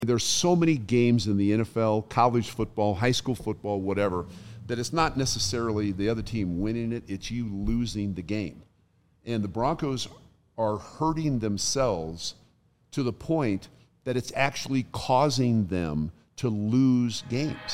There's so many games in the NFL, college football, high school football, whatever, that it's not necessarily the other team winning it, it's you losing the game. And the Broncos are hurting themselves to the point that it's actually causing them to lose games.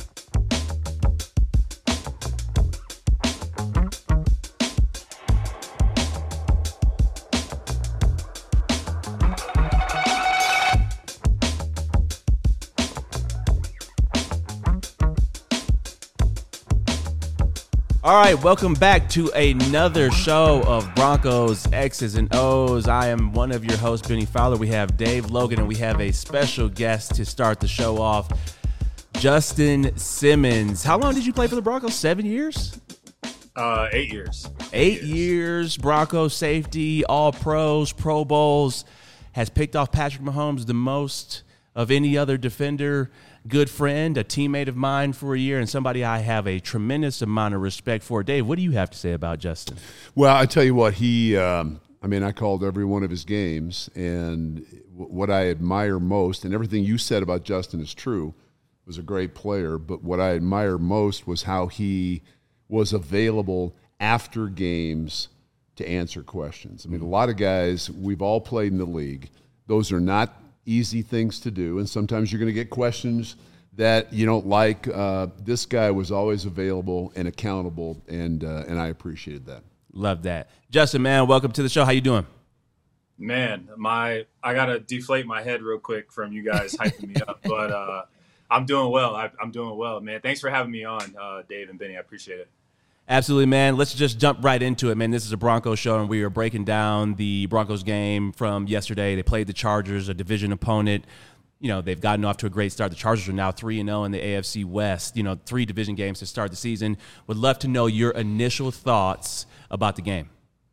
All right, welcome back to another show of Broncos X's and O's. I am one of your hosts, Benny Fowler. We have Dave Logan, and we have a special guest to start the show off, Justin Simmons. How long did you play for the Broncos? 7 years? 8 years. 8 years, Broncos safety, all pros, Pro Bowls, has picked off Patrick Mahomes the most of any other defender. Good friend, a teammate of mine for a year, and somebody I have a tremendous amount of respect for. Dave, what do you have to say about Justin? Well, I tell you what, I called every one of his games, and what I admire most, and everything you said about Justin is true, was a great player, but what I admire most was how he was available after games to answer questions. I mean, a lot of guys, we've all played in the league. Those are not easy things to do, and sometimes you're going to get questions that you don't like. This guy was always available and accountable, and I appreciated that. Love that. Justin, man, welcome to the show. How you doing? Man, I got to deflate my head real quick from you guys hyping me up, but I'm doing well. I'm doing well, man. Thanks for having me on, Dave and Benny. I appreciate it. Absolutely, man. Let's just jump right into it, man. This is a Broncos show, and we are breaking down the Broncos game from yesterday. They played the Chargers, a division opponent. You know, they've gotten off to a great start. The Chargers are now 3-0 in the AFC West. You know, 3 division games to start the season. Would love to know your initial thoughts about the game.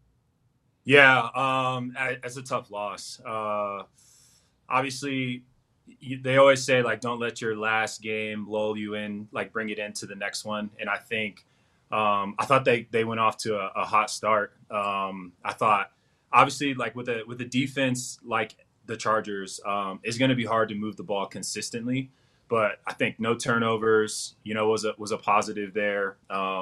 Yeah, it's a tough loss. Obviously, they always say, like, don't let your last game lull you in, like, bring it into the next one. And I think I thought they went off to a hot start. I thought, obviously, like with the defense, like the Chargers, it's going to be hard to move the ball consistently. But I think no turnovers, was a positive there.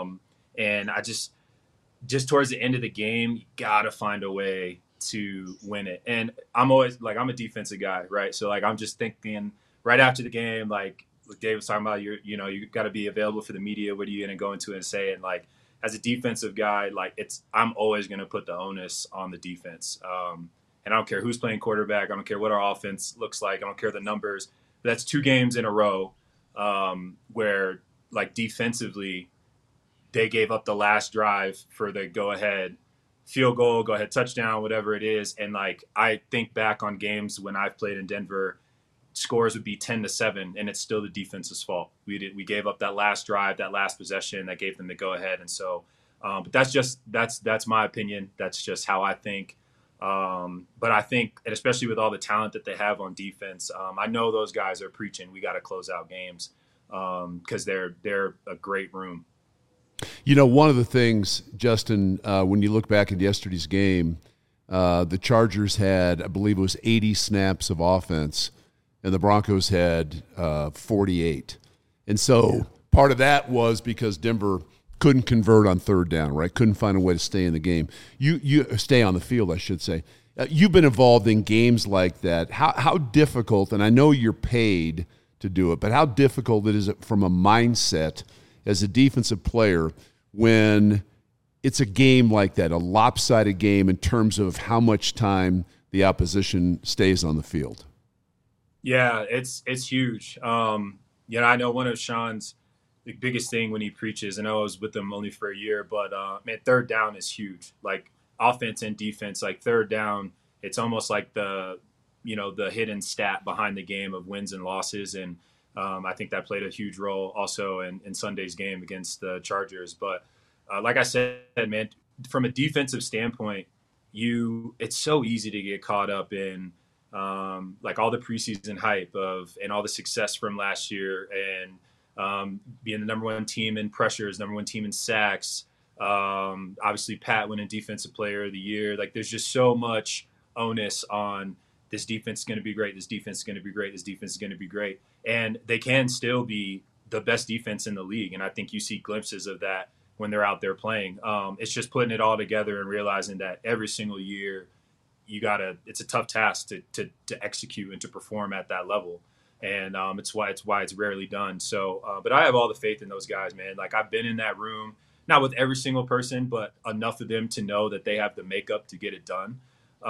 And I just towards the end of the game, you got to find a way to win it. And I'm always like, I'm a defensive guy, right? So like I'm just thinking right after the game, like Dave was talking about, you got to be available for the media. What are you going to go into and say? And like, as a defensive guy, like I'm always going to put the onus on the defense. And I don't care who's playing quarterback. I don't care what our offense looks like. I don't care the numbers. But that's 2 games in a row where like defensively they gave up the last drive for the go ahead field goal, go ahead touchdown, whatever it is. And like, I think back on games when I've played in Denver, scores would be 10-7, and it's still the defense's fault. We gave up that last drive, that last possession that gave them the go ahead. And so, but that's my opinion. That's just how I think. But I think, and especially with all the talent that they have on defense, I know those guys are preaching, we got to close out games because they're a great room. You know, one of the things, Justin, when you look back at yesterday's game, the Chargers had, I believe it was 80 snaps of offense, and the Broncos had 48. And so part of that was because Denver couldn't convert on third down, right? Couldn't find a way to stay in the game. You stay on the field, I should say. You've been involved in games like that. How difficult, and I know you're paid to do it, but how difficult is it from a mindset as a defensive player when it's a game like that, a lopsided game in terms of how much time the opposition stays on the field? Yeah, it's huge. I know one of Sean's the biggest thing when he preaches, and I was with him only for a year, but man, third down is huge. Like offense and defense, like third down, it's almost like the hidden stat behind the game of wins and losses. And I think that played a huge role also in Sunday's game against the Chargers. But like I said, man, from a defensive standpoint, it's so easy to get caught up in like all the preseason hype and all the success from last year and being the number 1 team in pressures, number 1 team in sacks. Obviously, Pat winning Defensive Player of the Year. Like, there's just so much onus on this defense is going to be great. This defense is going to be great. This defense is going to be great. And they can still be the best defense in the league. And I think you see glimpses of that when they're out there playing. It's just putting it all together and realizing that every single year it's a tough task to execute and to perform at that level. And it's why it's rarely done. So, but I have all the faith in those guys, man. Like, I've been in that room, not with every single person, but enough of them to know that they have the makeup to get it done.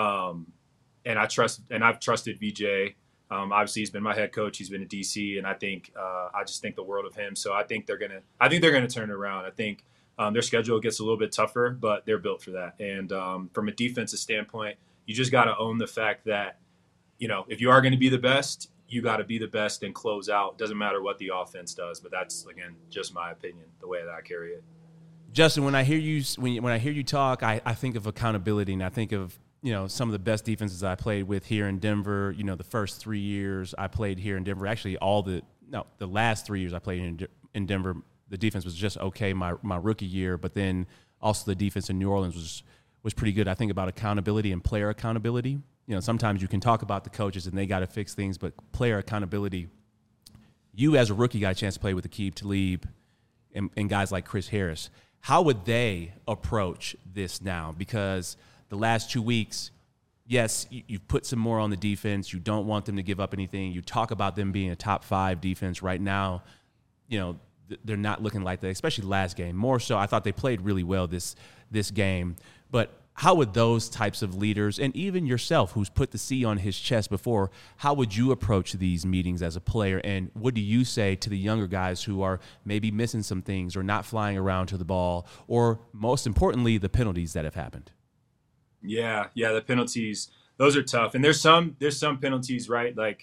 And I've trusted VJ. Obviously, he's been my head coach. He's been a DC, and I just think the world of him. So I think they're gonna turn it around. I think their schedule gets a little bit tougher, but they're built for that. And from a defensive standpoint, you just got to own the fact that, if you are going to be the best, you got to be the best and close out. Doesn't matter what the offense does, but that's, again, just my opinion, the way that I carry it. Justin, when I hear you talk, I think of accountability, and I think of some of the best defenses I played with here in Denver. The first 3 years I played here in Denver, actually the last 3 years I played in Denver, the defense was just okay my rookie year, but then also the defense in New Orleans was pretty good. I think about accountability and player accountability. Sometimes you can talk about the coaches and they got to fix things, but player accountability, you as a rookie got a chance to play with Aqib Talib and guys like Chris Harris. How would they approach this now? Because the last 2 weeks, yes, you've put some more on the defense. You don't want them to give up anything. You talk about them being a top 5 defense right now. They're not looking like that, especially last game. More so, I thought they played really well this game. But how would those types of leaders, and even yourself who's put the C on his chest before, how would you approach these meetings as a player? And what do you say to the younger guys who are maybe missing some things or not flying around to the ball, or most importantly, the penalties that have happened? Yeah, the penalties, those are tough. And there's some penalties, right? Like,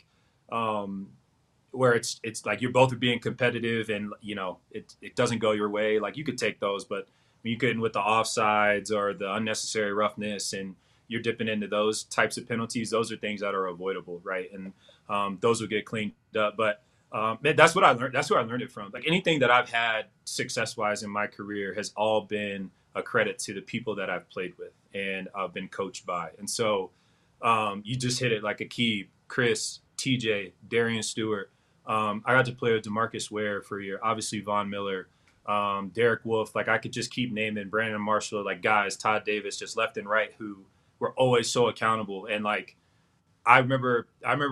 where it's like you're both being competitive and, it doesn't go your way. Like, you could take those, but when you get in with the offsides or the unnecessary roughness and you're dipping into those types of penalties, those are things that are avoidable, right? And those will get cleaned up. But that's what I learned. That's where I learned it from. Like, anything that I've had success-wise in my career has all been a credit to the people that I've played with and I've been coached by. And so you just hit it like Aqib, Chris, TJ, Darian Stewart. I got to play with DeMarcus Ware for a year, obviously Von Miller, Derek Wolfe. Like, I could just keep naming Brandon Marshall, like guys, Todd Davis, just left and right, who were always so accountable. And like, I remember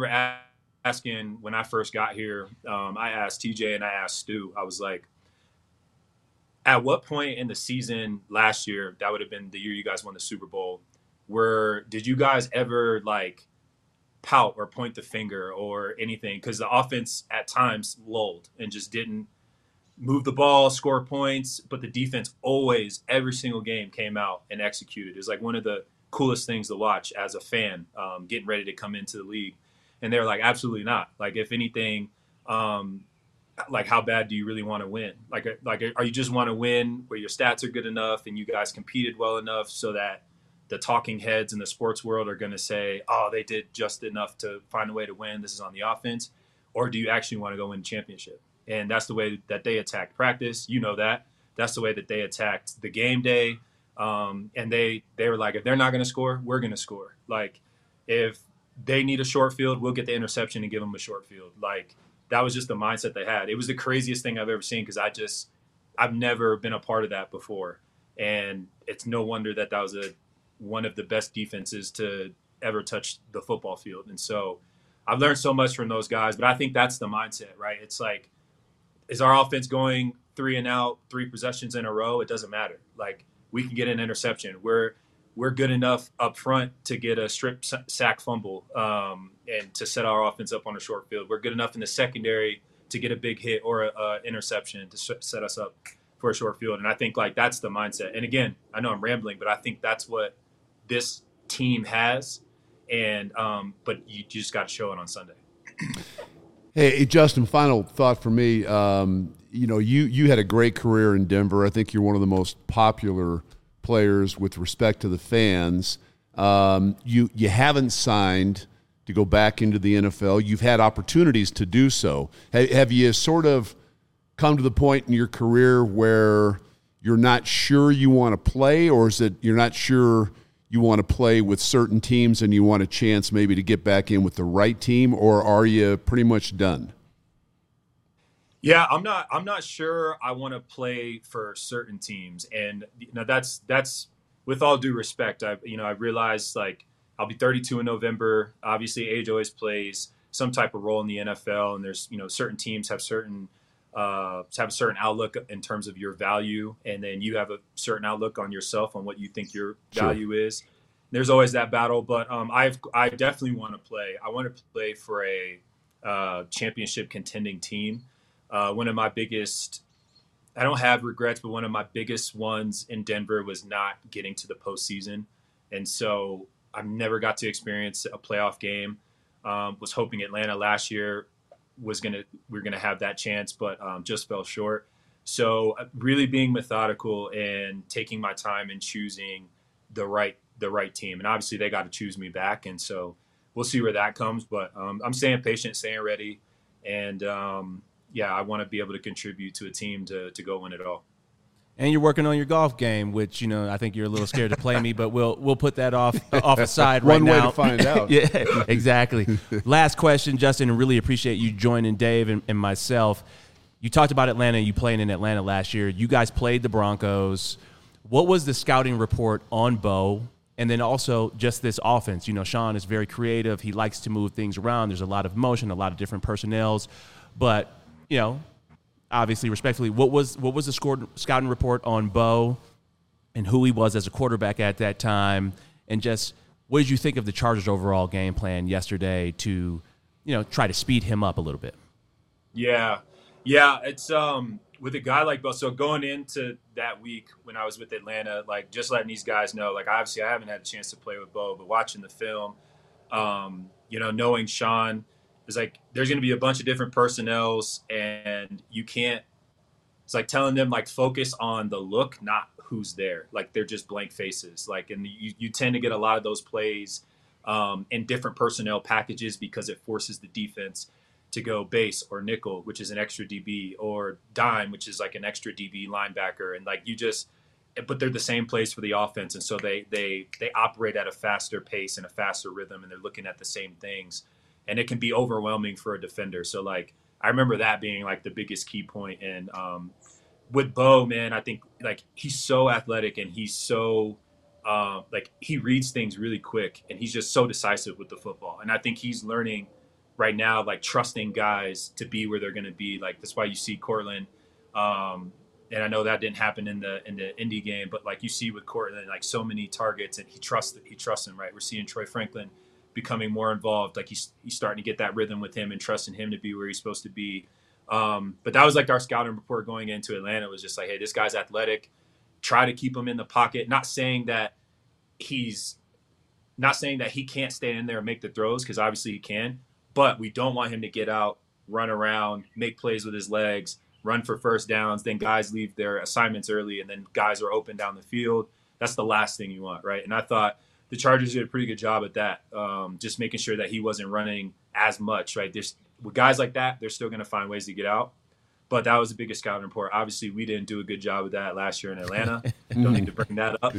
asking when I first got here, I asked TJ and I asked Stu, I was like, at what point in the season last year, that would have been the year you guys won the Super Bowl, did you guys ever like pout or point the finger or anything? Because the offense at times lulled and just didn't move the ball, score points, but the defense always, every single game, came out and executed. It was like one of the coolest things to watch as a fan, getting ready to come into the league. And they're like, absolutely not. Like, if anything, like, how bad do you really want to win? Like, are you just want to win where your stats are good enough and you guys competed well enough so that the talking heads in the sports world are going to say, oh, they did just enough to find a way to win. This is on the offense. Or do you actually want to go win a championship? And that's the way that they attacked practice. That's the way that they attacked the game day. And they were like, if they're not going to score, we're going to score. Like, if they need a short field, we'll get the interception and give them a short field. Like, that was just the mindset they had. It was the craziest thing I've ever seen because I've never been a part of that before. And it's no wonder that was one of the best defenses to ever touch the football field. And so I've learned so much from those guys, but I think that's the mindset, right? It's like, is our offense going 3 and out, 3 possessions in a row? It doesn't matter. Like, we can get an interception. We're good enough up front to get a strip sack fumble and to set our offense up on a short field. We're good enough in the secondary to get a big hit or an interception to set us up for a short field. And I think, like, that's the mindset. And again, I know I'm rambling, but I think that's what this team has. And but you just got to show it on Sunday. Hey, Justin, final thought for me. You had a great career in Denver. I think you're one of the most popular players with respect to the fans. You haven't signed to go back into the NFL. You've had opportunities to do so. Have you sort of come to the point in your career where you're not sure you want to play, or is it you're not sure you want to play with certain teams and you want a chance maybe to get back in with the right team, or are you pretty much done? Yeah, I'm not sure I want to play for certain teams. And that's with all due respect. I realized like I'll be 32 in November. Obviously age always plays some type of role in the NFL, and there's, certain teams have a certain outlook in terms of your value, and then you have a certain outlook on yourself on what you think your value is. There's always that battle, but I definitely want to play. I want to play for a championship contending team. One of my biggest, I don't have regrets, but one of my biggest ones in Denver was not getting to the postseason. And so I never got to experience a playoff game. Was hoping Atlanta last year we're gonna have that chance, but just fell short. So really being methodical and taking my time and choosing the right team. And obviously they got to choose me back. And so we'll see where that comes, but I'm staying patient, staying ready. And I want to be able to contribute to a team to go win it all. And you're working on your golf game, which, I think you're a little scared to play me, but we'll put that off aside right now. One way to find out. Yeah, exactly. Last question, Justin, and really appreciate you joining Dave and myself. You talked about Atlanta. You played in Atlanta last year. You guys played the Broncos. What was the scouting report on Bo? And then also just this offense. Sean is very creative. He likes to move things around. There's a lot of motion, a lot of different personnels. But, obviously, respectfully, what was the scouting report on Bo and who he was as a quarterback at that time? And just what did you think of the Chargers' overall game plan yesterday to, try to speed him up a little bit? Yeah, it's with a guy like Bo. So going into that week when I was with Atlanta, like just letting these guys know, like obviously I haven't had a chance to play with Bo, but watching the film, knowing Sean, it's like there's going to be a bunch of different personnels, and you can't. It's like telling them like focus on the look, not who's there. Like they're just blank faces. Like, and you tend to get a lot of those plays in different personnel packages because it forces the defense to go base or nickel, which is an extra DB, or dime, which is like an extra DB linebacker, and like but they're the same plays for the offense, and so they operate at a faster pace and a faster rhythm, and they're looking at the same things. And it can be overwhelming for a defender. So, like, I remember that being, like, the biggest key point. And with Bo, man, I think, like, he's so athletic and he's so, he reads things really quick. And he's just so decisive with the football. And I think he's learning right now, like, trusting guys to be where they're going to be. Like, that's why you see Cortland. And I know that didn't happen in the Indy game. But, like, you see with Cortland, like, so many targets. And he trusts him, right? We're seeing Troy Franklin becoming more involved. Like he's starting to get that rhythm with him and trusting him to be where he's supposed to be. But that was like our scouting report going into Atlanta. It was just like, hey, this guy's athletic. Try to keep him in the pocket. Not saying that he can't stay in there and make the throws, because obviously he can. But we don't want him to get out, run around, make plays with his legs, run for first downs. Then guys leave their assignments early, and then guys are open down the field. That's the last thing you want, right? And I thought the Chargers did a pretty good job at that, just making sure that he wasn't running as much, right? With guys like that, they're still going to find ways to get out. But that was the biggest scouting report. Obviously, we didn't do a good job with that last year in Atlanta. Don't need to bring that up.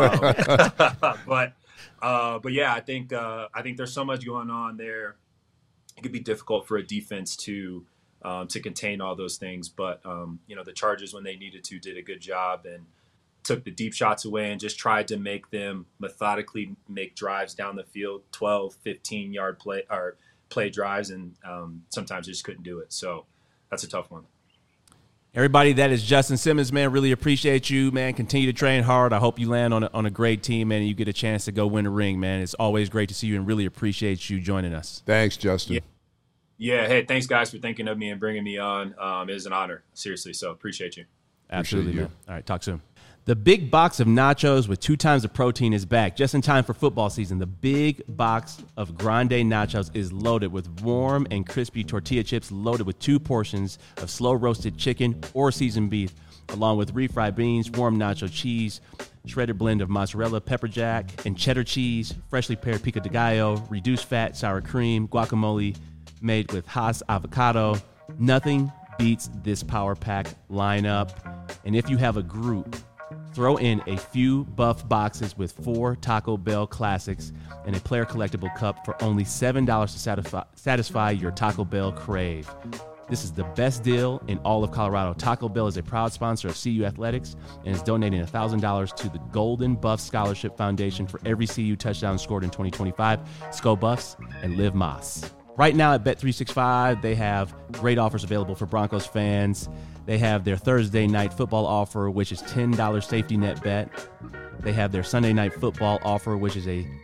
But yeah, I think there's so much going on there. It could be difficult for a defense to contain all those things. But the Chargers, when they needed to, did a good job and took the deep shots away and just tried to make them methodically make drives down the field, 12, 15-yard play drives, and sometimes they just couldn't do it. So that's a tough one. Everybody, that is Justin Simmons, man. Really appreciate you, man. Continue to train hard. I hope you land on a great team, man, and you get a chance to go win a ring, man. It's always great to see you and really appreciate you joining us. Thanks, Justin. Yeah. Hey, thanks, guys, for thinking of me and bringing me on. It was an honor, seriously, so appreciate you. Absolutely, man. All right, talk soon. The big box of nachos with 2 times the protein is back, just in time for football season. The big box of Grande Nachos is loaded with warm and crispy tortilla chips, loaded with 2 portions of slow-roasted chicken or seasoned beef, along with refried beans, warm nacho cheese, shredded blend of mozzarella, pepper jack, and cheddar cheese, freshly pared pico de gallo, reduced fat sour cream, guacamole made with Hass avocado. Nothing beats this power pack lineup. And if you have a group, Throw in a few buff boxes with 4 Taco Bell classics and a player collectible cup for only $7 to satisfy your Taco Bell crave. This is the best deal in all of Colorado. Taco Bell is a proud sponsor of CU Athletics and is donating $1,000 to the Golden Buff Scholarship Foundation for every CU touchdown scored in 2025. Go Buffs and live Moss. Right now at Bet365, they have great offers available for Broncos fans. They have their Thursday night football offer, which is $10 safety net bet. They have their Sunday night football offer, which is a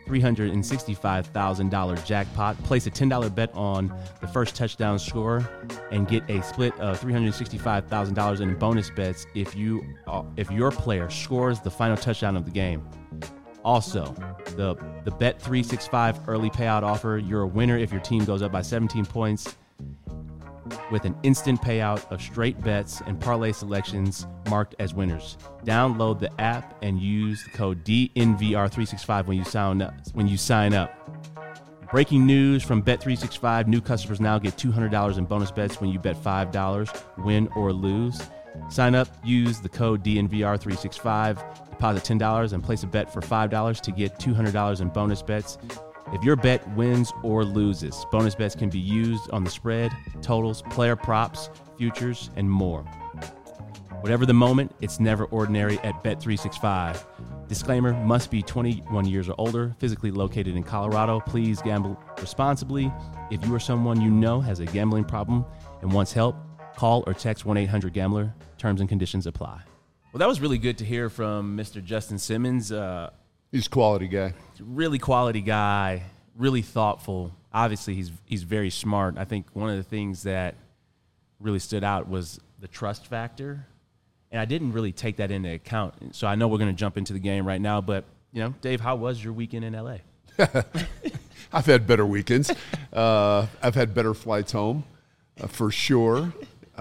$365,000 jackpot. Place a $10 bet on the first touchdown score and get a split of $365,000 in bonus bets if your player scores the final touchdown of the game. Also, the Bet365 early payout offer, you're a winner if your team goes up by 17 points with an instant payout of straight bets and parlay selections marked as winners. Download the app and use the code DNVR365 when you sign up. Breaking news from Bet365, new customers now get $200 in bonus bets when you bet $5, win or lose. Sign up, use the code DNVR365, deposit $10 and place a bet for $5 to get $200 in bonus bets. If your bet wins or loses, bonus bets can be used on the spread, totals, player props, futures, and more. Whatever the moment, it's never ordinary at Bet365. Disclaimer, must be 21 years or older, physically located in Colorado. Please gamble responsibly. If you or someone you know has a gambling problem and wants help, call or text 1-800-GAMBLER. Terms and conditions apply. Well, that was really good to hear from Mr. Justin Simmons. He's a quality guy. Really quality guy, really thoughtful. Obviously, he's very smart. I think one of the things that really stood out was the trust factor, and I didn't really take that into account. So I know we're going to jump into the game right now, but, Dave, how was your weekend in L.A.? I've had better weekends. I've had better flights home, for sure.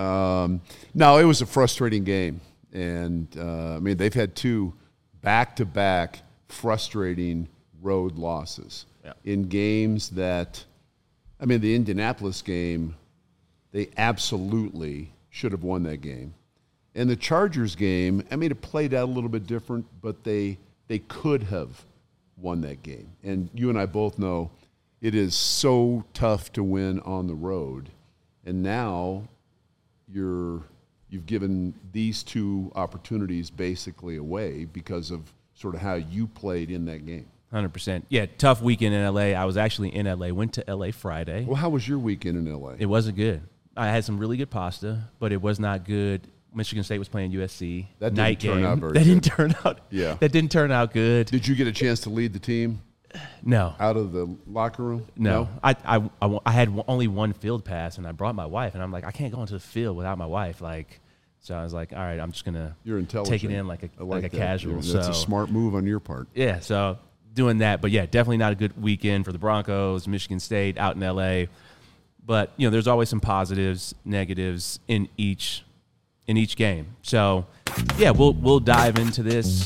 No, it was a frustrating game. And, they've had 2 back-to-back frustrating road losses in games that, the Indianapolis game, they absolutely should have won that game. And the Chargers game, it played out a little bit different, but they could have won that game. And you and I both know it is so tough to win on the road. And now you've given these 2 opportunities basically away because of sort of how you played in that game. 100%. Yeah, tough weekend in L.A. I was actually in L.A., went to L.A. Friday. Well, how was your weekend in L.A.? It wasn't good. I had some really good pasta, but it was not good. Michigan State was playing USC. That night didn't turn game. out very That good. didn't turn out. Yeah. That didn't turn out good. Did you get a chance to lead the team No. out of the locker room? No. I had only one field pass, and I brought my wife, and I'm like, I can't go into the field without my wife. So I was like, all right, I'm just going to take it in like a casual. That's a smart move on your part. Yeah, so doing that. But, yeah, definitely not a good weekend for the Broncos, Michigan State, out in L.A. But, there's always some positives, negatives in each game. So, yeah, we'll dive into this.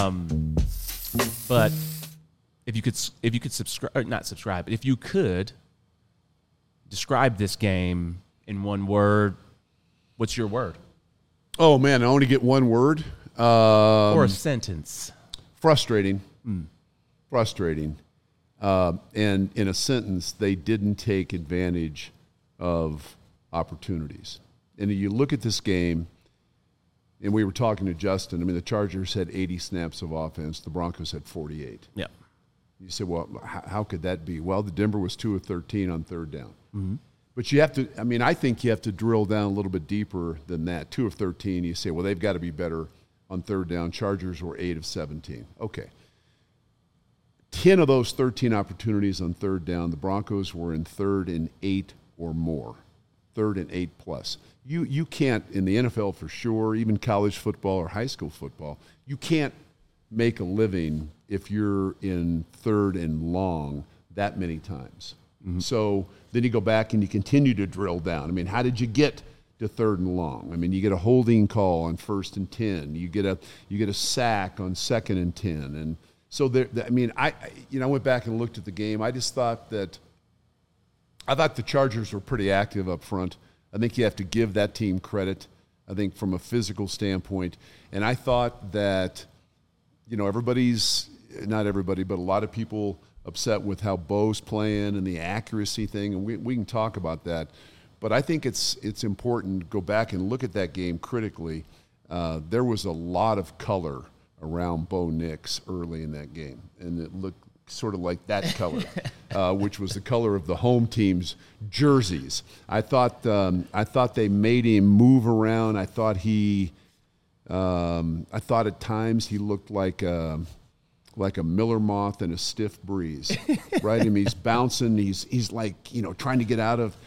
But if you could subscribe, or not subscribe, but if you could describe this game in one word, what's your word? Oh, man, I only get one word. Or a sentence. Frustrating. Frustrating. And in a sentence, they didn't take advantage of opportunities. And you look at this game, and we were talking to Justin. The Chargers had 80 snaps of offense. The Broncos had 48. Yeah. You say, well, how could that be? Well, the Denver was 2 of 13 on third down. Mm-hmm. But you have to, I think you have to drill down a little bit deeper than that. 2 of 13, you say, well, they've got to be better on third down. Chargers were 8 of 17. Okay. 10 of those 13 opportunities on third down, the Broncos were in 3rd and 8 or more. 3rd and 8 plus. You can't, in the NFL for sure, even college football or high school football, you can't make a living if you're in 3rd and long that many times. Mm-hmm. So then you go back and you continue to drill down. How did you get to 3rd and long? You get a holding call on 1st and 10. You get a sack on 2nd and 10. And so I went back and looked at the game. I just thought that the Chargers were pretty active up front. I think you have to give that team credit, I think, from a physical standpoint. And I thought that everybody's, not everybody, but a lot of people upset with how Bo's playing and the accuracy thing, and we can talk about that. But I think it's important to go back and look at that game critically. There was a lot of color around Bo Nix early in that game, and it looked sort of like that color, which was the color of the home team's jerseys. I thought they made him move around. I thought at times he looked like a miller moth in a stiff breeze, right? I mean, he's bouncing. He's like, trying to get out of.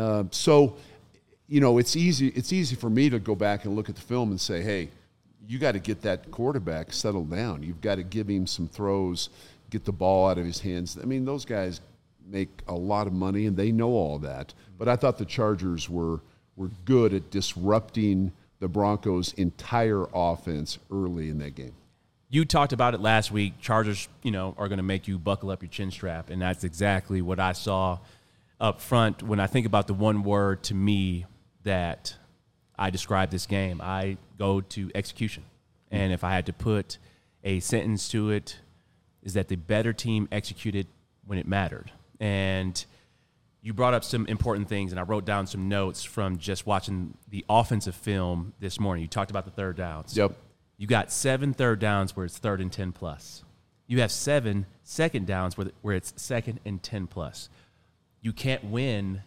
So it's easy for me to go back and look at the film and say, hey, you got to get that quarterback settled down. You've got to give him some throws, get the ball out of his hands. I mean, those guys make a lot of money, and they know all that. But I thought the Chargers were good at disrupting the Broncos' entire offense early in that game. You talked about it last week. Chargers, are going to make you buckle up your chin strap, and that's exactly what I saw up front. When I think about the one word to me that I describe this game, I go to execution. And if I had to put a sentence to it, is that the better team executed when it mattered. And you brought up some important things, and I wrote down some notes from just watching the offensive film this morning. You talked about the third downs. Yep. You got 7 third downs where it's 3rd and 10 plus. You have 7 second downs where it's 2nd and 10 plus. You can't win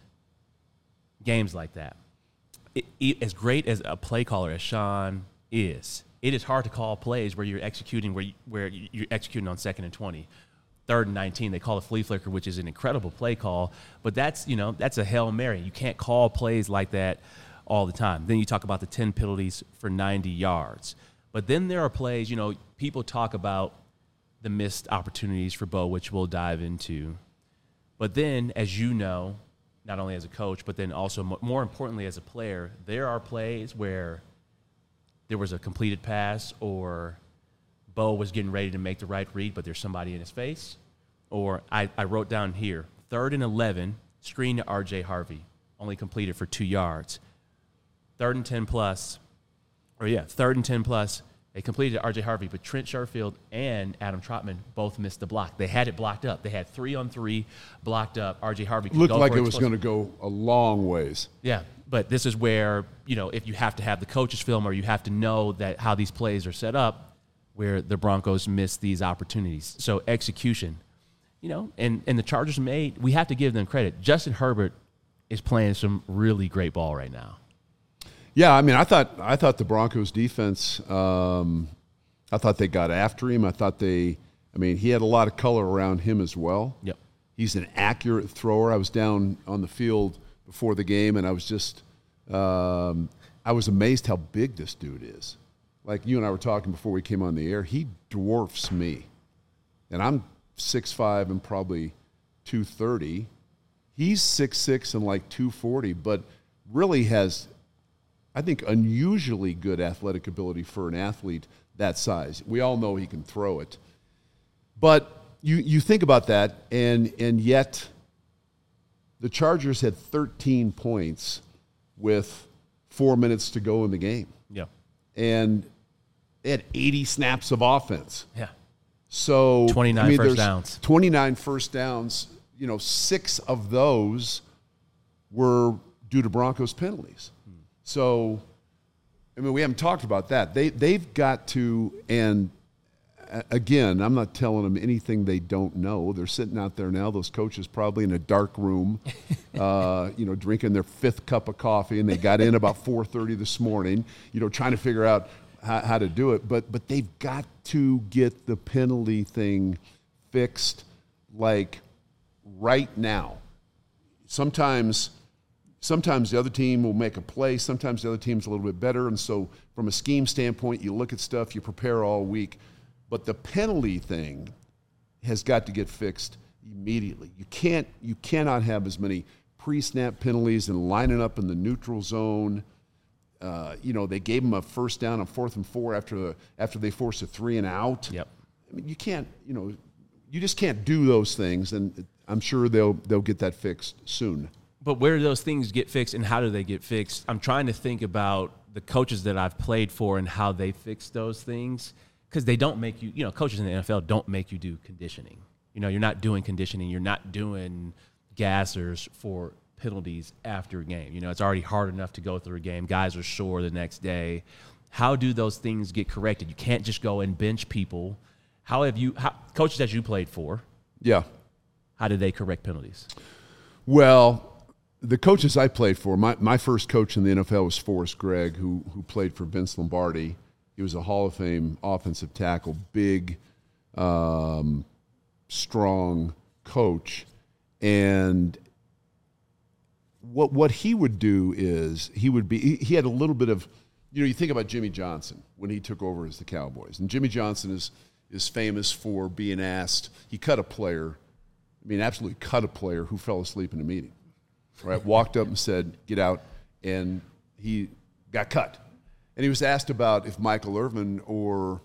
games like that. As great as a play caller as Sean is, it is hard to call plays where you're executing where you're executing on 2nd and 20, 3rd and 19. They call a flea flicker, which is an incredible play call, but that's a Hail Mary. You can't call plays like that all the time. Then you talk about the 10 penalties for 90 yards. But then there are plays, people talk about the missed opportunities for Bo, which we'll dive into. But then, as you know, not only as a coach, but then also more importantly as a player, there are plays where there was a completed pass or Bo was getting ready to make the right read, but there's somebody in his face. Or I wrote down here, 3rd and 11, screen to R.J. Harvey, only completed for 2 yards. 3rd and 10 plus, 3rd and 10 plus, they completed R.J. Harvey, but Trent Sherfield and Adam Trotman both missed the block. They had it blocked up. They had 3-on-3 blocked up. R.J. Harvey could looked like it was going to go a long ways. Yeah, but this is where, if you have to have the coach's film or you have to know that how these plays are set up, where the Broncos missed these opportunities. So execution, and the Chargers we have to give them credit. Justin Herbert is playing some really great ball right now. Yeah, I mean, I thought the Broncos defense, I thought they got after him. He had a lot of color around him as well. Yep. He's an accurate thrower. I was down on the field before the game, and I was just, I was amazed how big this dude is. Like you and I were talking before we came on the air, he dwarfs me. And I'm 6'5" and probably 230. He's 6'6" and like 240, but really has, I think, unusually good athletic ability for an athlete that size. We all know he can throw it. But you think about that, and yet the Chargers had 13 points with 4 minutes to go in the game. Yeah. And they had 80 snaps of offense. Yeah. So 29 first downs. 29 first downs. 6 of those were due to Broncos penalties. So, we haven't talked about that. They've got to, and again, I'm not telling them anything they don't know. They're sitting out there now, those coaches probably in a dark room, drinking their 5th cup of coffee, and they got in about 4:30 this morning, trying to figure out how to do it. But they've got to get the penalty thing fixed, like, right now. Sometimes the other team will make a play. Sometimes the other team's a little bit better. And so from a scheme standpoint, you look at stuff, you prepare all week. But the penalty thing has got to get fixed immediately. You cannot have as many pre-snap penalties and lining up in the neutral zone. They gave them a first down on 4th and 4 after they forced a 3 and out. Yep. You can't, you just can't do those things. And I'm sure they'll get that fixed soon. But where do those things get fixed and how do they get fixed? I'm trying to think about the coaches that I've played for and how they fix those things. because they don't make you, coaches in the NFL don't make you do conditioning. You're not doing conditioning. You're not doing gassers for penalties after a game. It's already hard enough to go through a game. Guys are sore the next day. How do those things get corrected? You can't just go and bench people. Coaches that you played for? Yeah. How did they correct penalties? Well, the coaches I played for, my first coach in the NFL was Forrest Gregg, who played for Vince Lombardi. He was a Hall of Fame offensive tackle, big, strong coach. And what he would do is he had a little bit of, you think about Jimmy Johnson when he took over as the Cowboys. And Jimmy Johnson is famous for being asked, he cut a player, absolutely cut a player who fell asleep in a meeting. Right? Walked up and said, get out, and he got cut. And he was asked about if Michael Irvin or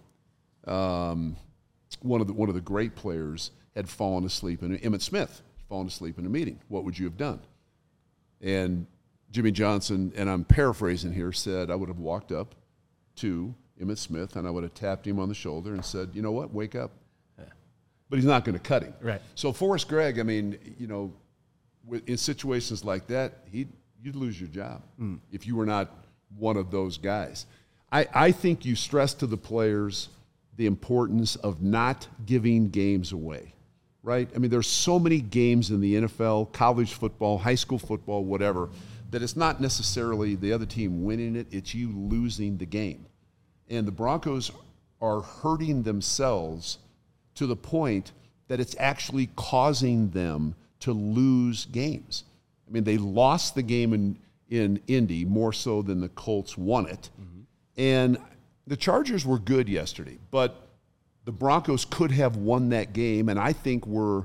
one of the great players had fallen asleep, and Emmitt Smith had fallen asleep in a meeting. What would you have done? And Jimmy Johnson, and I'm paraphrasing here, said, I would have walked up to Emmitt Smith and I would have tapped him on the shoulder and said, you know what, wake up. Yeah. But he's not going to cut him. Right. So Forrest Gregg, in situations like that, you'd lose your job if you were not one of those guys. I think you stress to the players the importance of not giving games away, right? There's so many games in the NFL, college football, high school football, whatever, that it's not necessarily the other team winning it, it's you losing the game. And the Broncos are hurting themselves to the point that it's actually causing them to lose games. They lost the game in Indy more so than the Colts won it. Mm-hmm. And the Chargers were good yesterday, but the Broncos could have won that game, and I think were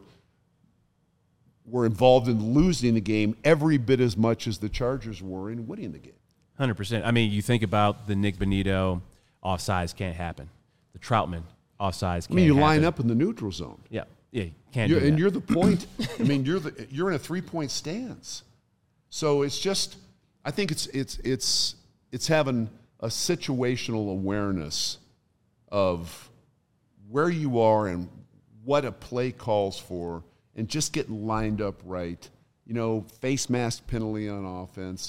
involved in losing the game every bit as much as the Chargers were in winning the game. 100%. You think about the Nick Bonito, offsides can't happen. The Troutman, offsides can't happen. You line up in the neutral zone. Yeah, you can't do that. And you're the point. You're in a 3-point stance. So it's just, I think it's having a situational awareness of where you are and what a play calls for, and just getting lined up right. Face mask penalty on offense.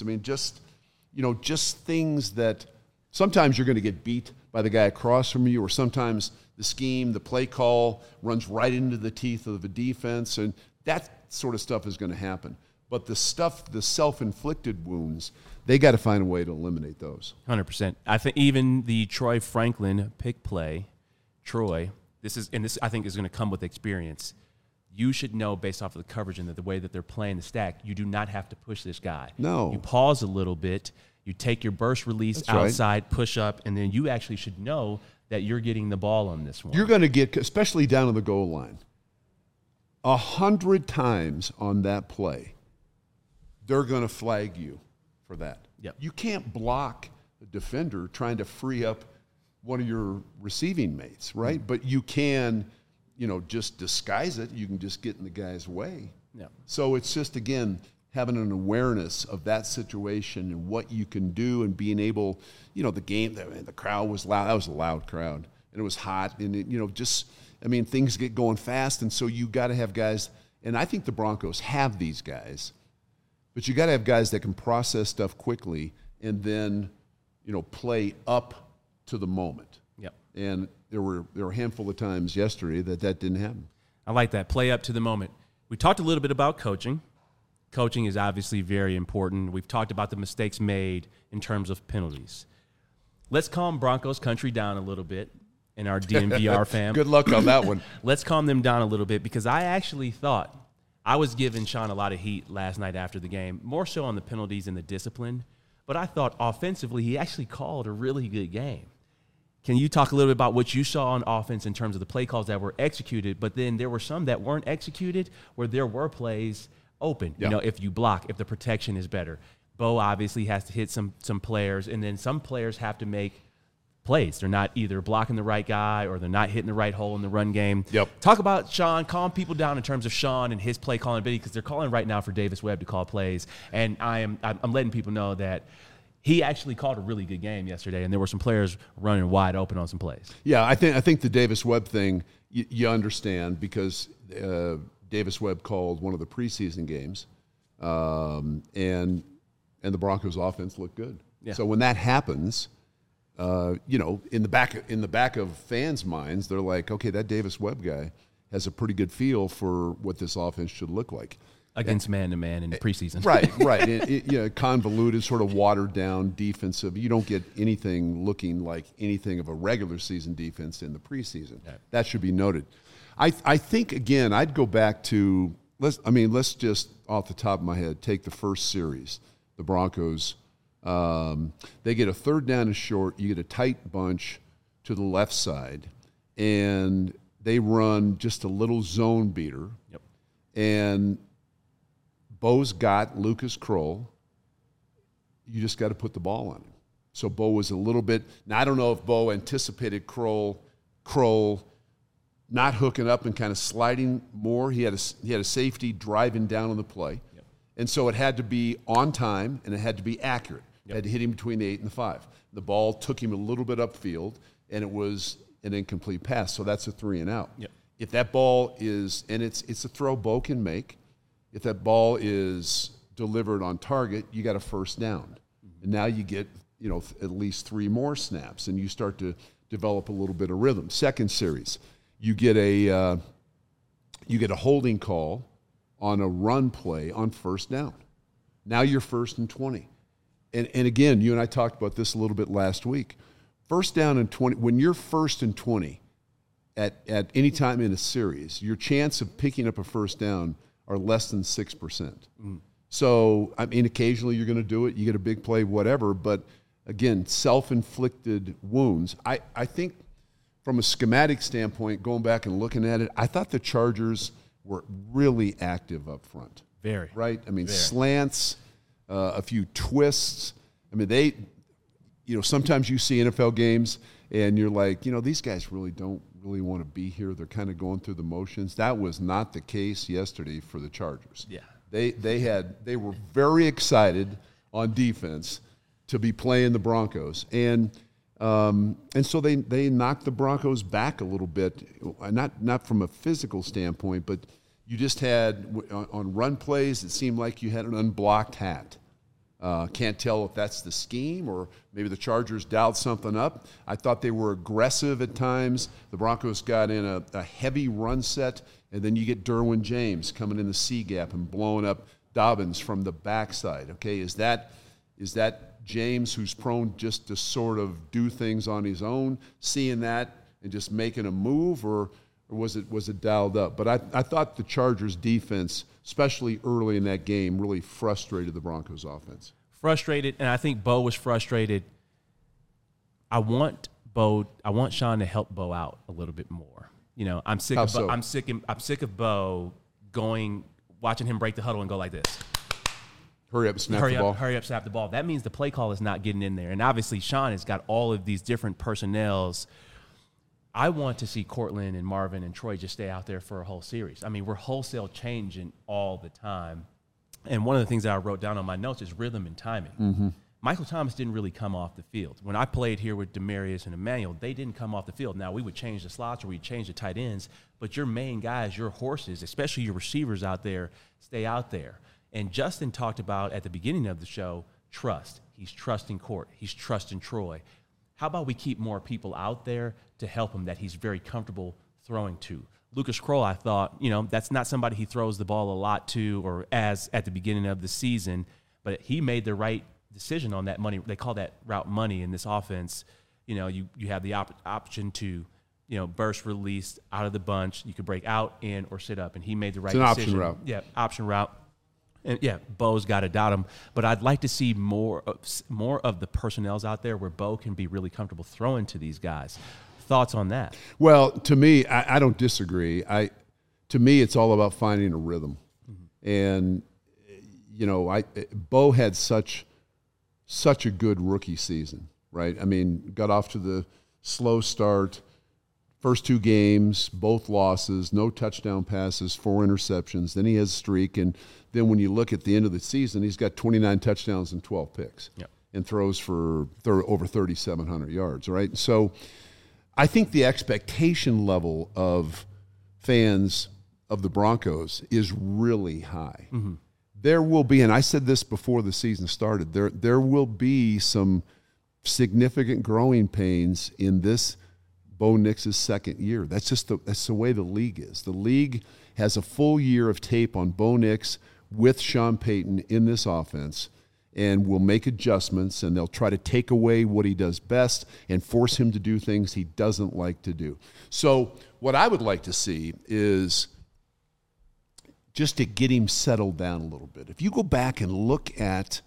Just things that sometimes you're going to get beat by the guy across from you, or sometimes the scheme, the play call runs right into the teeth of the defense, and that sort of stuff is going to happen. But the self-inflicted wounds, they got to find a way to eliminate those. 100%. I think even the Troy Franklin pick play, this I think is going to come with experience. You should know based off of the coverage and the way that they're playing the stack, you do not have to push this guy. No. You pause a little bit, you take your burst release That's outside, right. Push up, and then you actually should know that you're getting the ball on this one. You're going to get, especially down on the goal line, 100 times on that play, they're going to flag you for that. Yep. You can't block a defender trying to free up one of your receiving mates, right? Mm-hmm. But you can, just disguise it. You can just get in the guy's way. Yep. So it's just, again, having an awareness of that situation and what you can do, and being able, the game, the crowd was loud. That was a loud crowd, and it was hot, and things get going fast, and so you got to have guys, and I think the Broncos have these guys, but you got to have guys that can process stuff quickly and then, play up to the moment. Yep. And there were a handful of times yesterday that didn't happen. I like that, play up to the moment. We talked a little bit about coaching. Coaching is obviously very important. We've talked about the mistakes made in terms of penalties. Let's calm Broncos country down a little bit in our DNVR fam. Good luck on that one. Let's calm them down a little bit, because I actually thought I was giving Sean a lot of heat last night after the game, more so on the penalties and the discipline. But I thought offensively he actually called a really good game. Can you talk a little bit about what you saw on offense in terms of the play calls that were executed, but then there were some that weren't executed where there were plays open, yeah. If you block, if the protection is better. Bo obviously has to hit some players, and then some players have to make plays. They're not either blocking the right guy or they're not hitting the right hole in the run game. Yep. Talk about Sean, calm people down in terms of Sean and his play calling ability, because they're calling right now for Davis Webb to call plays, and I'm letting people know that he actually called a really good game yesterday, and there were some players running wide open on some plays. Yeah, I think the Davis Webb thing you understand because Davis Webb called one of the preseason games, and the Broncos' offense looked good. Yeah. So when that happens, in the back of fans' minds, they're like, okay, that Davis Webb guy has a pretty good feel for what this offense should look like. Against man-to-man in the preseason. Right. Convoluted, sort of watered-down defensive. You don't get anything looking like anything of a regular season defense in the preseason. Yeah. That should be noted. I think, again, I'd go back to let's just, off the top of my head, take the first series. The Broncos, they get a third down and short. You get a tight bunch to the left side, and they run just a little zone beater. Yep. And Bo's got Lucas Kroll. You just got to put the ball on him. So Bo was a little bit. Now I don't know if Bo anticipated Kroll not hooking up and kind of sliding more. He had a safety driving down on the play, and so it had to be on time and it had to be accurate. It had to hit him between the 8 and the 5. The ball took him a little bit upfield, and it was an incomplete pass. So that's a 3 and out. Yep. If that ball is, and it's a throw Bo can make. If that ball is delivered on target, you got a first down. And now you get, at least 3 more snaps, and you start to develop a little bit of rhythm. Second series, you get a holding call on a run play on first down. Now you're 1st and 20. And again, you and I talked about this a little bit last week. First down and 20, when you're 1st and 20 at any time in a series, your chance of picking up a first down are less than 6%. So, occasionally you're going to do it. You get a big play, whatever. But, again, self-inflicted wounds. I think from a schematic standpoint, going back and looking at it, I thought the Chargers were really active up front. Very. Right? Very. Slants, a few twists. They, sometimes you see NFL games and you're like, these guys really don't really want to be here. They're kind of going through the motions. That was not the case yesterday for the Chargers. Yeah. They were very excited on defense to be playing the Broncos. And so they knocked the Broncos back a little bit, not from a physical standpoint, but you just had, on run plays, it seemed like you had an unblocked hat. Can't tell if that's the scheme or maybe the Chargers dialed something up. I thought they were aggressive at times. The Broncos got in a heavy run set, and then you get Derwin James coming in the C gap and blowing up Dobbins from the backside. Okay, is that James, who's prone just to sort of do things on his own, seeing that and just making a move, or was it dialed up? But I thought the Chargers defense, especially early in that game, really frustrated the Broncos offense. Frustrated, and I think Bo was frustrated. I want Sean to help Bo out a little bit more. I'm sick of Bo, I'm sick of Bo watching him break the huddle and go like this. Hurry up, snap the ball. Hurry up, snap the ball. That means the play call is not getting in there. And obviously Sean has got all of these different personnels. I want to see Cortland and Marvin and Troy just stay out there for a whole series. We're wholesale changing all the time. And one of the things that I wrote down on my notes is rhythm and timing. Mm-hmm. Michael Thomas didn't really come off the field. When I played here with Demarius and Emmanuel, they didn't come off the field. Now, we would change the slots or we'd change the tight ends, but your main guys, your horses, especially your receivers out there, stay out there. And Justin talked about at the beginning of the show, trust. He's trusting Court. He's trusting Troy. How about we keep more people out there to help him that he's very comfortable throwing to? Lucas Kroll, I thought, that's not somebody he throws the ball a lot to or as at the beginning of the season, but he made the right decision on that money. They call that route money in this offense. You have the option to, burst release out of the bunch. You could break out, in, or sit up, and he made the right decision. It's an option route. Yeah, option route. And yeah, Bo's got to doubt him, but I'd like to see more of the personnels out there where Bo can be really comfortable throwing to these guys. Thoughts on that? Well, to me, I don't disagree. To me, it's all about finding a rhythm, and Bo had such a good rookie season, right? Got off to the slow start. First 2 games, both losses, no touchdown passes, 4 interceptions. Then he has a streak, and then when you look at the end of the season, he's got 29 touchdowns and 12 picks. Yep. and throws for over 3,700 yards, right? So I think the expectation level of fans of the Broncos is really high. Mm-hmm. There will be, and I said this before the season started, there will be some significant growing pains in this Bo Nix's second year. That's just that's the way the league is. The league has a full year of tape on Bo Nix with Sean Payton in this offense, and will make adjustments, and they'll try to take away what he does best and force him to do things he doesn't like to do. So what I would like to see is just to get him settled down a little bit. If you go back and look at,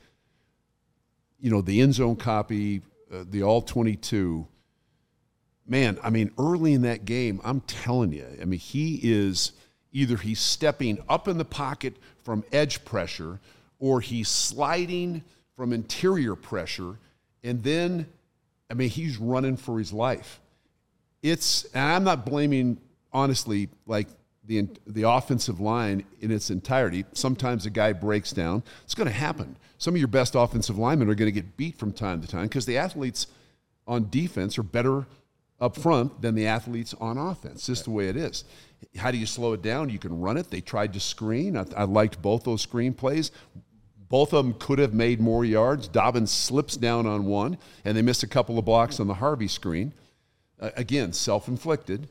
the end zone copy, the all-22, man, I mean, early in that game, I'm telling you, I mean, he's stepping up in the pocket from edge pressure, or he's sliding from interior pressure, and then, I mean, he's running for his life. And I'm not blaming, honestly, like the offensive line in its entirety. Sometimes a guy breaks down. It's going to happen. Some of your best offensive linemen are going to get beat from time to time because the athletes on defense are better up front than the athletes on offense. Just the way it is. How do you slow it down? You can run it. They tried to screen. I liked both those screen plays. Both of them could have made more yards. Dobbins slips down on one, and they missed a couple of blocks on the Harvey screen. Again, self-inflicted.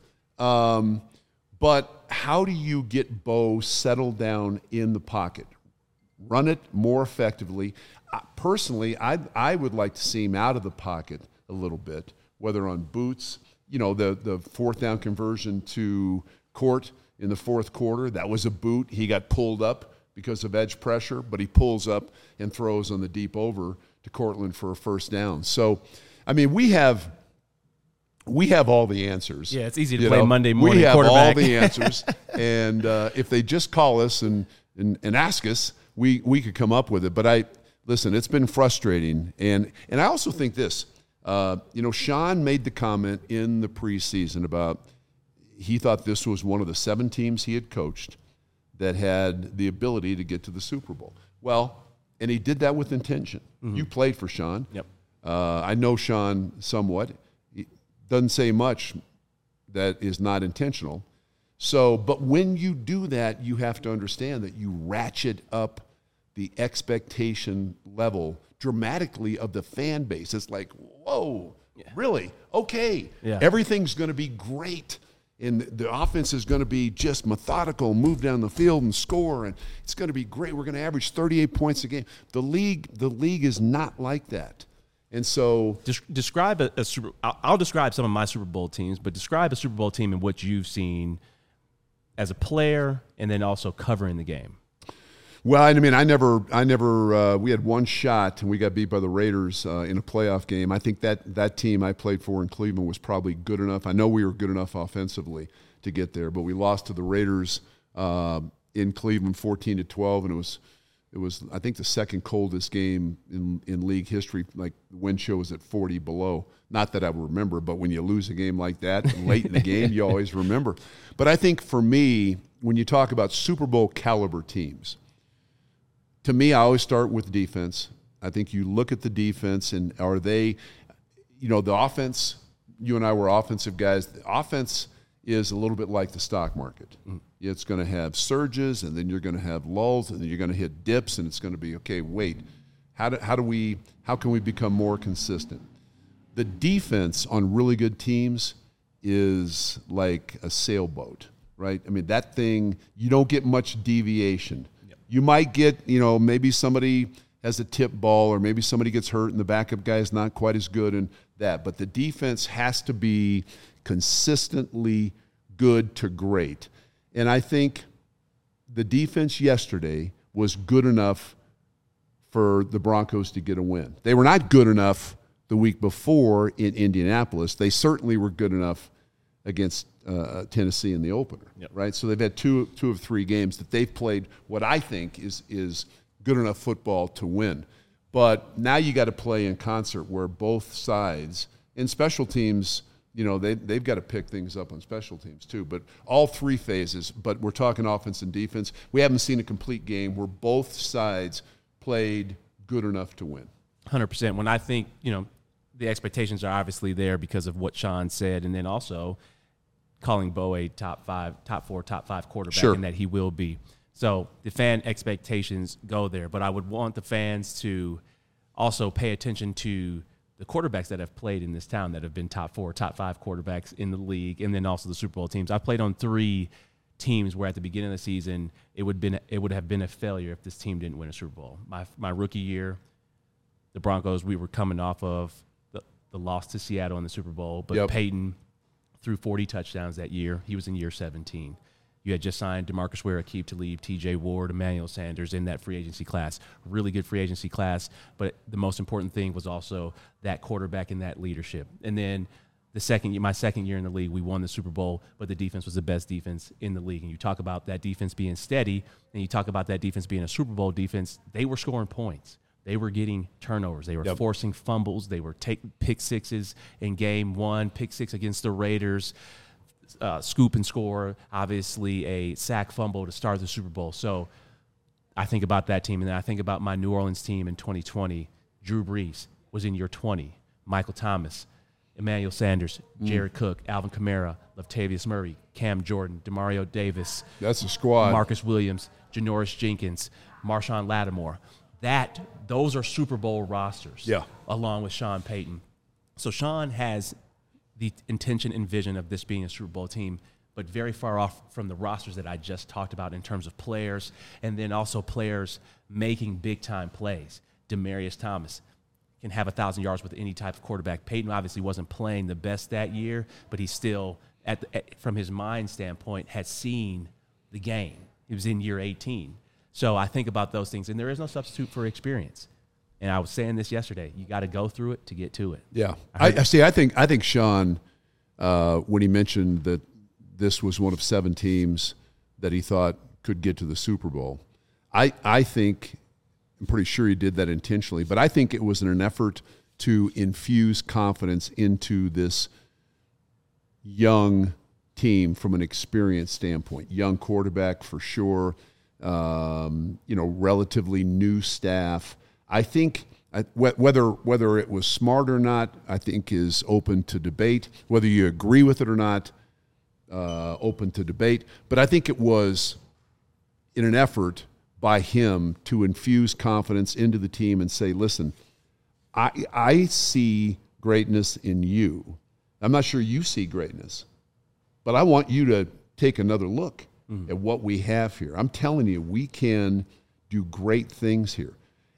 But how do you get Bo settled down in the pocket? Run it more effectively. Personally, I would like to see him out of the pocket a little bit, whether on boots. The fourth down conversion to Court in the fourth quarter, that was a boot. He got pulled up because of edge pressure, but he pulls up and throws on the deep over to Cortland for a first down. So, I mean, we have all the answers. Yeah, it's easy to play Monday morning We have quarterback. all the answers, and if they just call us and ask us, we could come up with it. But listen, it's been frustrating, and I also think this. Sean made the comment in the preseason about he thought this was one of the 7 teams he had coached that had the ability to get to the Super Bowl. Well, and he did that with intention. Mm-hmm. You played for Sean. Yep. I know Sean somewhat. He doesn't say much that is not intentional. So, but when you do that, you have to understand that you ratchet up the expectation level dramatically of the fan base. It's like, whoa, really? Okay. Yeah. Everything's going to be great. And the offense is going to be just methodical, move down the field and score, and it's going to be great. We're going to average 38 points a game. The league is not like that. And so describe a Super. I'll describe some of my Super Bowl teams, but describe a Super Bowl team and what you've seen as a player, and then also covering the game. Well, I mean, I never. We had one shot, and we got beat by the Raiders in a playoff game. I think that team I played for in Cleveland was probably good enough. I know we were good enough offensively to get there, but we lost to the Raiders in Cleveland, 14-12, and it was I think the second coldest game in league history. Like the wind chill was at 40 below. Not that I would remember, but when you lose a game like that late in the game, you always remember. But I think for me, when you talk about Super Bowl caliber teams, to me, I always start with defense. I think you look at the defense, and are they, the offense, you and I were offensive guys. The offense is a little bit like the stock market. Mm. It's going to have surges, and then you're going to have lulls, and then you're going to hit dips, and it's going to be, okay, wait, how can we become more consistent? The defense on really good teams is like a sailboat, right? I mean, that thing, you don't get much deviation. You might get, maybe somebody has a tip ball, or maybe somebody gets hurt and the backup guy is not quite as good in that. But the defense has to be consistently good to great. And I think the defense yesterday was good enough for the Broncos to get a win. They were not good enough the week before in Indianapolis. They certainly were good enough against Tennessee in the opener, right? So they've had two of 3 games that they've played what I think is good enough football to win. But now you got to play in concert where both sides, and special teams, they've got to pick things up on special teams too. But all 3 phases, but we're talking offense and defense. We haven't seen a complete game where both sides played good enough to win. 100%. When I think, the expectations are obviously there because of what Sean said, and then also calling Bo a top 4, top 5 quarterback, and that he will be. So the fan expectations go there, but I would want the fans to also pay attention to the quarterbacks that have played in this town that have been top 4, top 5 quarterbacks in the league, and then also the Super Bowl teams. I've played on 3 teams where at the beginning of the season it would have been a failure if this team didn't win a Super Bowl. My rookie year, the Broncos, we were coming off of the loss to Seattle in the Super Bowl, but Peyton threw 40 touchdowns that year. He was in year 17. You had just signed DeMarcus Ware, Aqib Talib, T.J. Ward, Emmanuel Sanders in that free agency class. Really good free agency class, but the most important thing was also that quarterback and that leadership. And then my second year in the league, we won the Super Bowl, but the defense was the best defense in the league. And you talk about that defense being steady, and you talk about that defense being a Super Bowl defense, they were scoring points. They were getting turnovers. They were forcing fumbles. They were taking pick sixes in game 1, pick 6 against the Raiders, scoop and score, obviously a sack fumble to start the Super Bowl. So I think about that team, and then I think about my New Orleans team in 2020. Drew Brees was in year 20. Michael Thomas, Emmanuel Sanders, Jared Cook, Alvin Kamara, Latavius Murray, Cam Jordan, Demario Davis. That's a squad. Marcus Williams, Janoris Jenkins, Marshawn Lattimore. Those are Super Bowl rosters, along with Sean Payton. So Sean has the intention and vision of this being a Super Bowl team, but very far off from the rosters that I just talked about in terms of players, and then also players making big-time plays. Demaryius Thomas can have 1,000 yards with any type of quarterback. Peyton obviously wasn't playing the best that year, but he still, from his mind standpoint, had seen the game. He was in year 18. So I think about those things, and there is no substitute for experience. And I was saying this yesterday: you got to go through it to get to it. Yeah, I think Sean, when he mentioned that this was one of 7 teams that he thought could get to the Super Bowl, I'm pretty sure he did that intentionally. But I think it was in an effort to infuse confidence into this young team from an experience standpoint. Young quarterback for sure. Relatively new staff. I think whether it was smart or not, I think is open to debate. Whether you agree with it or not, open to debate. But I think it was in an effort by him to infuse confidence into the team and say, listen, I see greatness in you. I'm not sure you see greatness, but I want you to take another look at what we have here. I'm telling you, we can do great things here.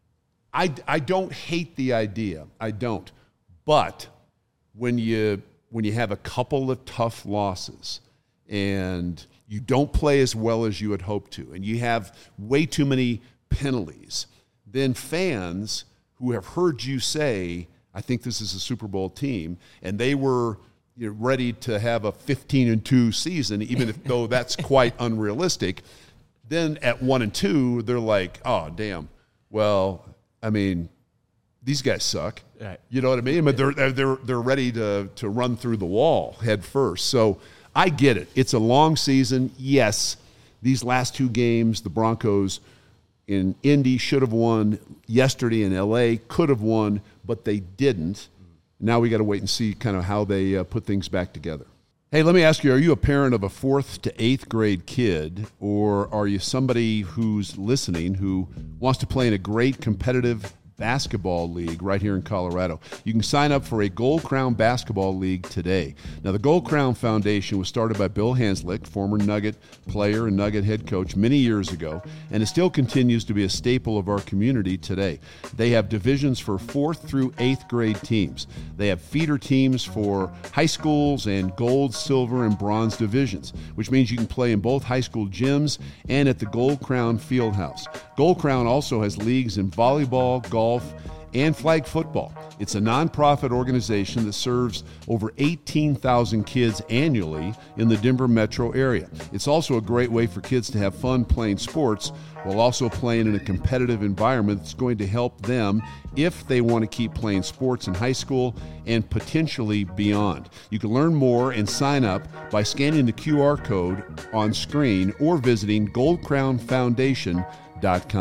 I don't hate the idea. I don't. But when you have a couple of tough losses and you don't play as well as you had hoped to, and you have way too many penalties, then fans who have heard you say, I think this is a Super Bowl team, and they were ready to have a 15-2 season, even though that's quite unrealistic, then at 1-2, they're like, oh, damn. Well, I mean, these guys suck. Right. You know what I mean? But they're ready to run through the wall head first. So I get it. It's a long season. Yes, these last 2 games, the Broncos in Indy should have won. Yesterday in L.A. could have won, but they didn't. Now we got to wait and see kind of how they put things back together. Hey, let me ask you, are you a parent of a 4th to 8th grade kid, or are you somebody who's listening who wants to play in a great competitive basketball league right here in Colorado? You can sign up for a Gold Crown basketball league today. Now, the Gold Crown Foundation was started by Bill Hanslick, former Nugget player and Nugget head coach many years ago, and it still continues to be a staple of our community today. They have divisions for 4th through 8th grade teams. They have feeder teams for high schools and gold, silver, and bronze divisions, which means you can play in both high school gyms and at the Gold Crown Fieldhouse. Gold Crown also has leagues in volleyball, golf, and flag football. It's a nonprofit organization that serves over 18,000 kids annually in the Denver metro area. It's also a great way for kids to have fun playing sports while also playing in a competitive environment that's going to help them if they want to keep playing sports in high school and potentially beyond. You can learn more and sign up by scanning the QR code on screen or visiting goldcrownfoundation.com.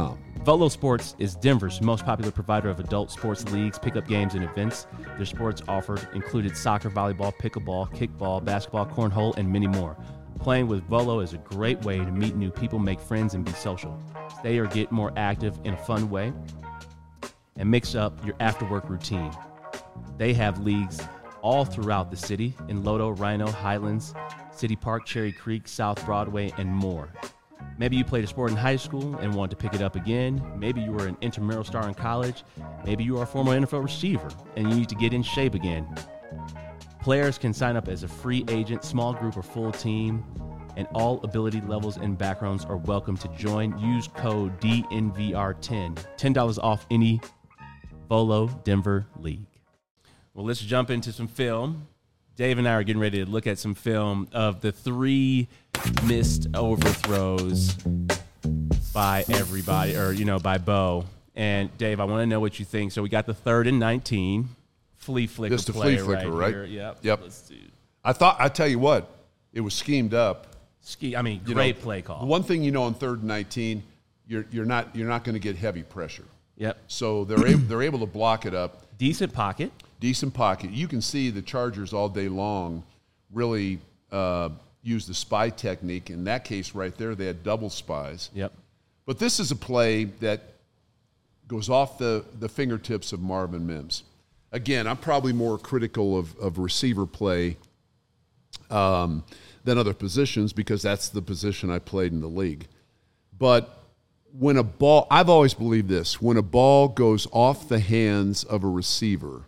Volo Sports is Denver's most popular provider of adult sports leagues, pickup games, and events. Their sports offered included soccer, volleyball, pickleball, kickball, basketball, cornhole, and many more. Playing with Volo is a great way to meet new people, make friends, and be social. Stay or get more active in a fun way, and mix up your after-work routine. They have leagues all throughout the city in Lodo, Rhino, Highlands, City Park, Cherry Creek, South Broadway, and more. Maybe you played a sport in high school and want to pick it up again. Maybe you were an intramural star in college. Maybe you are a former NFL receiver and you need to get in shape again. Players can sign up as a free agent, small group, or full team, and all ability levels and backgrounds are welcome to join. Use code DNVR10. $10 off any Volo Denver League. Well, let's jump into some film. Dave and I are getting ready to look at some film of the 3 missed overthrows by everybody, or, by Bo. And, Dave, I want to know what you think. So we got the 3rd and 19. Flea flicker Just a play flea flicker, right? here. Yep. Let's do. I tell you what, it was schemed up. Great play call. The one thing on 3rd and 19, you're not going to get heavy pressure. Yep. So they're able to block it up. Decent pocket. You can see the Chargers all day long really use the spy technique. In that case right there, they had double spies. Yep. But this is a play that goes off the fingertips of Marvin Mims. Again, I'm probably more critical of receiver play than other positions because that's the position I played in the league. But when a ball, I've always believed this, when a ball goes off the hands of a receiver,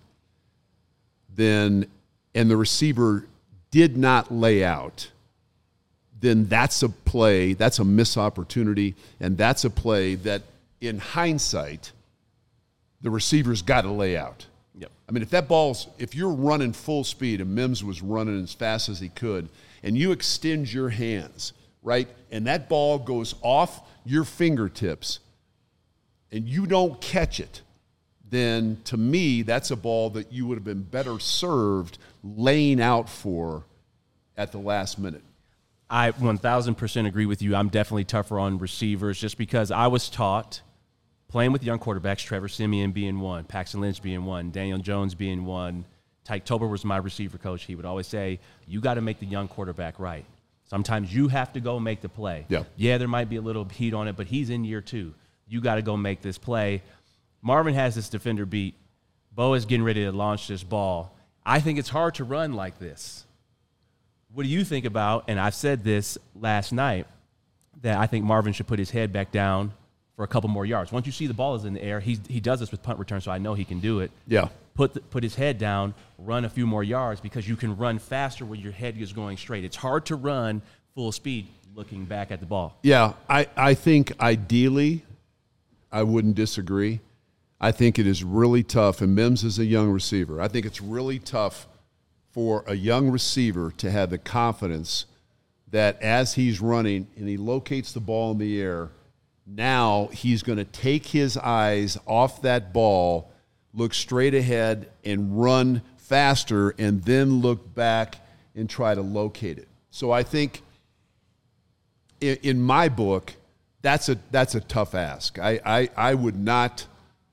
and the receiver did not lay out, then that's a play, that's a missed opportunity, and that's a play that, in hindsight, the receiver's got to lay out. Yep. I mean, if you're running full speed, and Mims was running as fast as he could, and you extend your hands, right, and that ball goes off your fingertips, and you don't catch it, then to me, that's a ball that you would have been better served laying out for at the last minute. I 1,000% agree with you. I'm definitely tougher on receivers just because I was taught playing with young quarterbacks, Trevor Siemian being one, Paxton Lynch being one, Daniel Jones being one. Tyke Tober was my receiver coach. He would always say, you got to make the young quarterback right. Sometimes you have to go make the play. Yeah, there might be a little heat on it, but he's in year 2. You got to go make this play. Marvin has this defender beat. Bo is getting ready to launch this ball. I think it's hard to run like this. What do you think about, and I've said this last night, that I think Marvin should put his head back down for a couple more yards. Once you see the ball is in the air, he does this with punt return, so I know he can do it. Yeah. Put his head down, run a few more yards because you can run faster when your head is going straight. It's hard to run full speed looking back at the ball. Yeah, I think ideally I wouldn't disagree. I think it is really tough, and Mims is a young receiver. I think it's really tough for a young receiver to have the confidence that as he's running and he locates the ball in the air, now he's going to take his eyes off that ball, look straight ahead, and run faster, and then look back and try to locate it. So I think in my book, that's a tough ask. I would not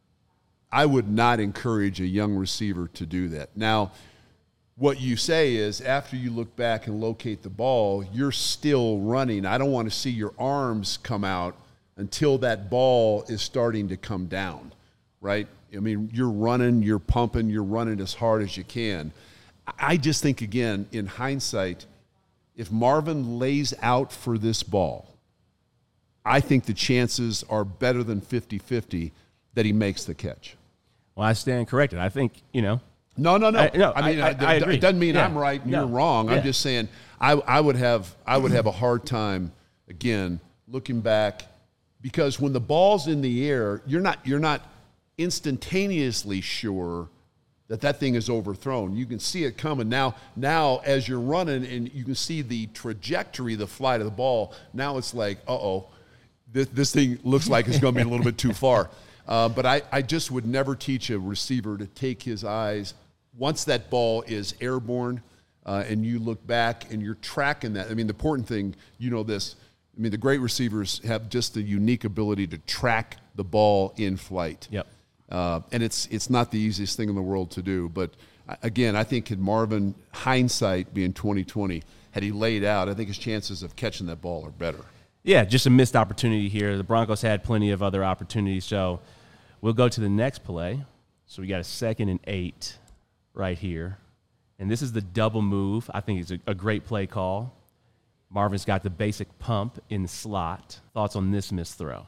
encourage a young receiver to do that. Now, what you say is after you look back and locate the ball, you're still running. I don't want to see your arms come out until that ball is starting to come down, right? I mean, you're running, you're pumping, you're running as hard as you can. I just think, again, in hindsight, if Marvin lays out for this ball, I think the chances are better than 50-50 that he makes the catch. Well, I stand corrected. I think, No. I agree. It doesn't mean I'm right and you're wrong. I'm just saying I would have a hard time, again, looking back, because when the ball's in the air, you're not instantaneously sure that thing is overthrown. You can see it coming. Now as you're running and you can see the trajectory, the flight of the ball, now it's like, this thing looks like it's going to be a little bit too far. But I just would never teach a receiver to take his eyes, once that ball is airborne and you look back and you're tracking that. I mean, the important thing, the great receivers have just the unique ability to track the ball in flight. Yep. And it's not the easiest thing in the world to do. But, again, I think had Marvin, hindsight being 2020, had he laid out, I think his chances of catching that ball are better. Yeah, just a missed opportunity here. The Broncos had plenty of other opportunities. So we'll go to the next play. So we got a 2nd and 8 right here. And this is the double move. I think it's a great play call. Marvin's got the basic pump in the slot. Thoughts on this missed throw?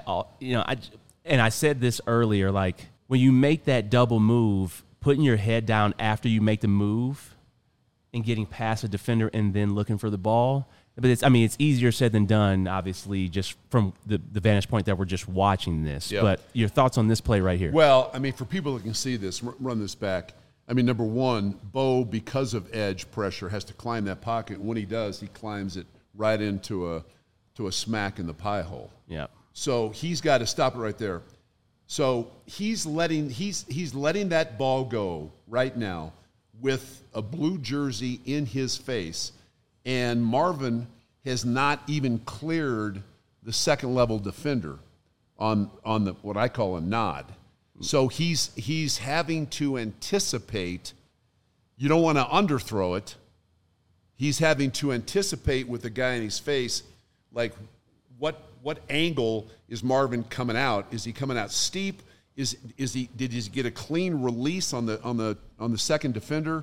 I said this earlier, like when you make that double move, putting your head down after you make the move and getting past a defender and then looking for the ball. But it's easier said than done, obviously, just from the vantage point that we're just watching this. Yep. But your thoughts on this play right here? Well, for people that can see this, run this back. Number one, Bo, because of edge pressure, has to climb that pocket. When he does, he climbs it right into a smack in the pie hole. Yeah. So he's got to stop it right there. So he's letting that ball go right now with a blue jersey in his face, and Marvin has not even cleared the second level defender on the what I call a nod. So he's having to anticipate. You don't want to underthrow it. He's having to anticipate with the guy in his face, like what angle is Marvin coming out? Is he coming out steep? Did he get a clean release on the second defender?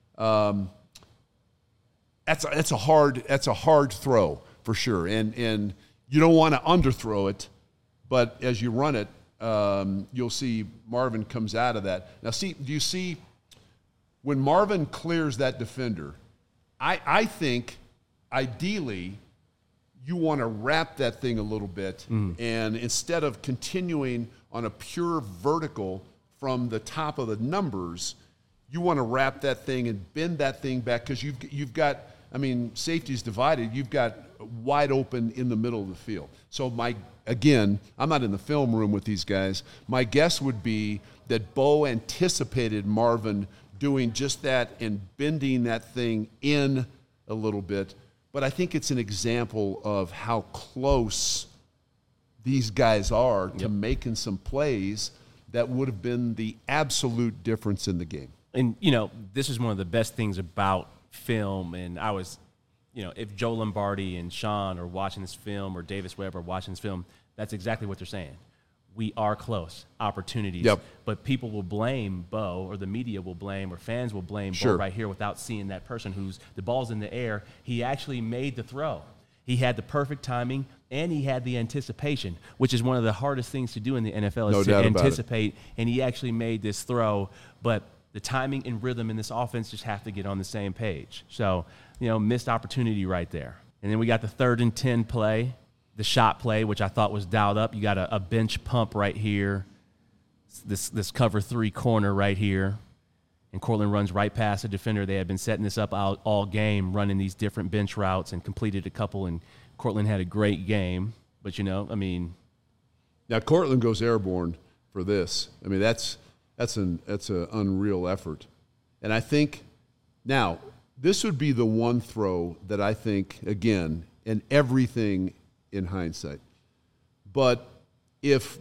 That's a hard throw for sure, and you don't want to underthrow it, but as you run it, you'll see Marvin comes out of that. Now, do you see when Marvin clears that defender? I think ideally you want to wrap that thing a little bit, and instead of continuing on a pure vertical from the top of the numbers, you want to wrap that thing and bend that thing back because you've got, safety's divided. You've got wide open in the middle of the field. So I'm not in the film room with these guys. My guess would be that Bo anticipated Marvin doing just that and bending that thing in a little bit. But I think it's an example of how close these guys are to making some plays that would have been the absolute difference in the game. And, this is one of the best things about film. And I was, if Joe Lombardi and Sean are watching this film or Davis Webb are watching this film, that's exactly what they're saying. We are close. Opportunities. Yep. But people will blame Bo, or the media will blame, or fans will blame Sure. Bo right here without seeing that person who's the ball's in the air. He actually made the throw. He had the perfect timing, and he had the anticipation, which is one of the hardest things to do in the NFL is to anticipate. And he actually made this throw, but the timing and rhythm in this offense just have to get on the same page. So, missed opportunity right there. And then we got the 3rd and 10 play, the shot play, which I thought was dialed up. You got a bench pump right here, this cover 3 corner right here. And Courtland runs right past the defender. They had been setting this up all game, running these different bench routes and completed a couple. And Courtland had a great game. But, now Courtland goes airborne for this. That's an unreal effort. And I think now this would be the one throw that I think, again, and everything in hindsight. But if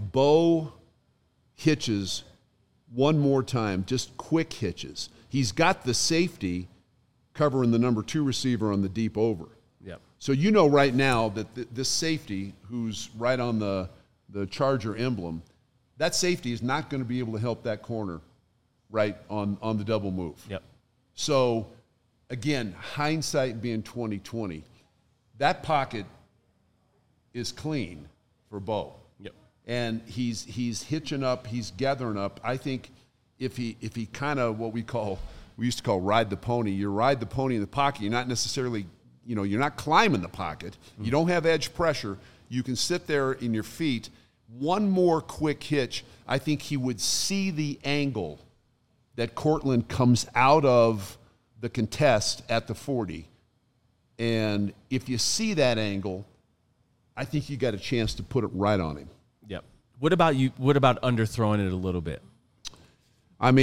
Bo hitches one more time, just quick hitches, he's got the safety covering the number 2 receiver on the deep over. Yep. So right now that this safety, who's right on the Charger emblem, that safety is not going to be able to help that corner right on the double move. Yep. So, again, hindsight being 2020, that pocket is clean for Bo. Yep. And he's hitching up, he's gathering up. I think if he kind of what we used to call ride the pony, you ride the pony in the pocket, you're not necessarily, you're not climbing the pocket. Mm-hmm. You don't have edge pressure. You can sit there in your feet. One more quick hitch, I think he would see the angle that Courtland comes out of the contest at the 40. And if you see that angle, I think you got a chance to put it right on him. Yep. What about you? What about underthrowing it a little bit? I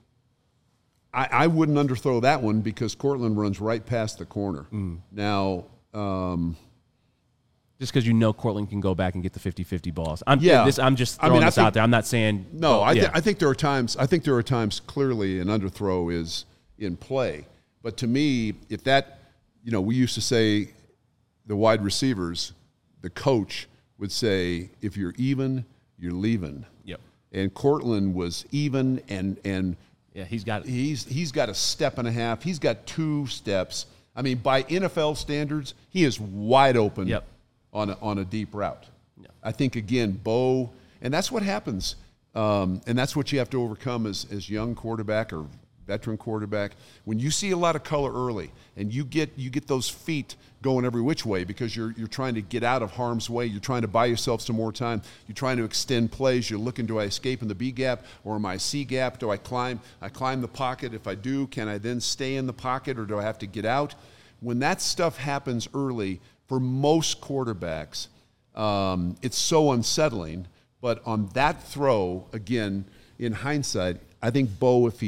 wouldn't underthrow that one because Courtland runs right past the corner. Now, Just because Cortland can go back and get the 50-50 balls. I'm just throwing this out there. I'm not saying no. I think there are times. I think there are times clearly an underthrow is in play. But to me, if that, we used to say the wide receivers, the coach would say, if you're even, you're leaving. Yep. And Cortland was even, and yeah, he's got a step and a half. He's got 2 steps. I mean, by NFL standards, he is wide open. Yep. On a deep route. Yep. I think again, Bo, and that's what happens, and that's what you have to overcome as young quarterback or veteran quarterback. When you see a lot of color early, and you get those feet going every which way because you're trying to get out of harm's way. You're trying to buy yourself some more time. You're trying to extend plays. You're looking, do I escape in the B gap or am I C gap? Do I climb the pocket? If I do, can I then stay in the pocket or do I have to get out? When that stuff happens early, for most quarterbacks, it's so unsettling. But on that throw, again, in hindsight, I think Bo, if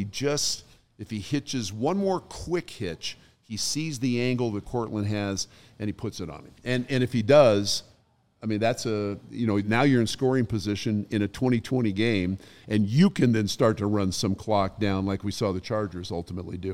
he hitches one more quick hitch, he sees the angle that Cortland has, and he puts it on him. And if he does, I mean, that's now you're in scoring position in a 2020 game, and you can then start to run some clock down like we saw the Chargers ultimately do.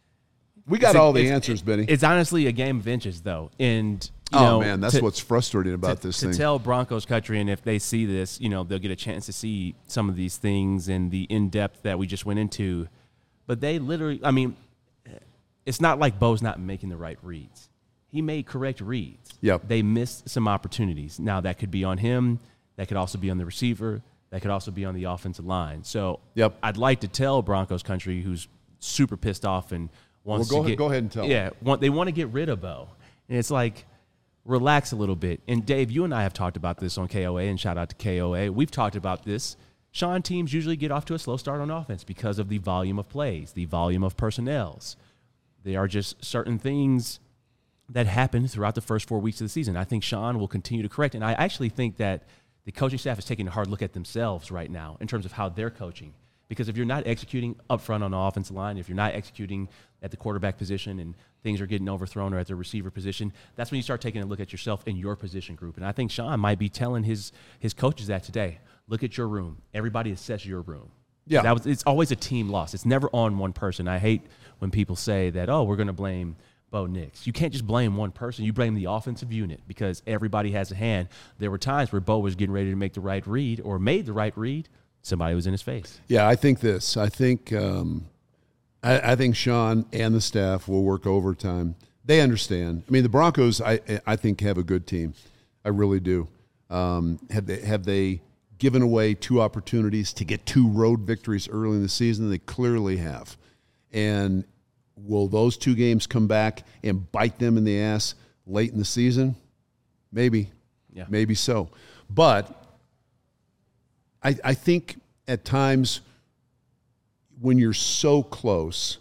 We got all the answers, Benny. It's honestly a game of inches, though. And man, that's what's frustrating about this thing. To tell Broncos country, and if they see this, they'll get a chance to see some of these things and the in-depth that we just went into. But they literally, I mean, it's not like Bo's not making the right reads. He made correct reads. Yep. They missed some opportunities. Now, that could be on him. That could also be on the receiver. That could also be on the offensive line. So I'd like to tell Broncos country, who's super pissed off and wants go to go ahead and tell them. They want to get rid of Bo. And it's like, relax a little bit. And, Dave, you and I have talked about this on KOA, and shout out to KOA. We've talked about this. Sean, teams usually get off to a slow start on offense because of the volume of plays, the volume of personnels. There are just certain things that happen throughout the first 4 weeks of the season. I think Sean will continue to correct. And I actually think that the coaching staff is taking a hard look at themselves right now in terms of how they're coaching. Because if you're not executing up front on the offensive line, if you're not executing at the quarterback position and things are getting overthrown or at the receiver position, that's when you start taking a look at yourself in your position group. And I think Sean might be telling his coaches that today. Look at your room. Everybody assess your room. Yeah. It's always a team loss. It's never on one person. I hate when people say that, we're going to blame Bo Nix. You can't just blame one person. You blame the offensive unit because everybody has a hand. There were times where Bo was getting ready to make the right read or made the right read. Somebody was in his face. Yeah, I think this. I think Sean and the staff will work overtime. They understand. I mean, the Broncos, I think, have a good team. I really do. Have they given away 2 opportunities to get 2 road victories early in the season? They clearly have. And will those 2 games come back and bite them in the ass late in the season? Maybe. Yeah. Maybe so. But I think at times when you're so close,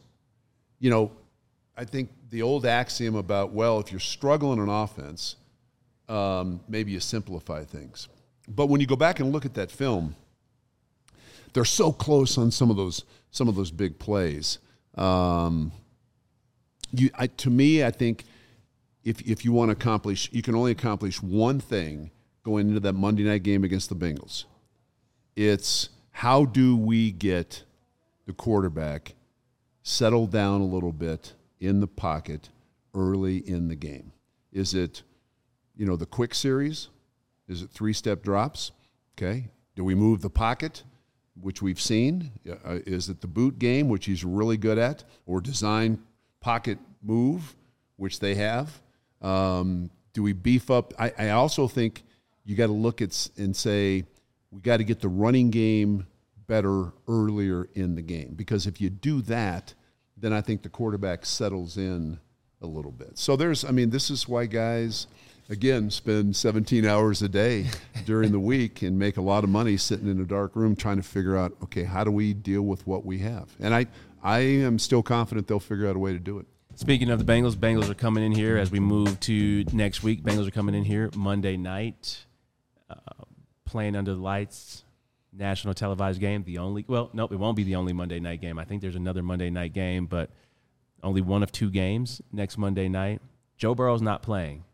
I think the old axiom about, if you're struggling on offense, maybe you simplify things. But when you go back and look at that film, they're so close on some of those big plays. To me, I think if you want to accomplish, you can only accomplish one thing going into that Monday night game against the Bengals. It's how do we get the quarterback settled down a little bit in the pocket early in the game? Is it, the quick series? Is it 3-step drops? Okay. Do we move the pocket, which we've seen? Is it the boot game, which he's really good at, or design pocket move, which they have? Do we beef up? I also think you got to look at and say, we got to get the running game better earlier in the game. Because if you do that, then I think the quarterback settles in a little bit. So this is why guys, again, spend 17 hours a day during the week and make a lot of money sitting in a dark room trying to figure out, okay, how do we deal with what we have? And I am still confident they'll figure out a way to do it. Speaking of the Bengals are coming in here as we move to next week. Bengals are coming in here Monday night. Playing under the lights, national televised game. It won't be the only Monday night game. I think there's another Monday night game, but only one of 2 games next Monday night. Joe Burrow's not playing. Yeah.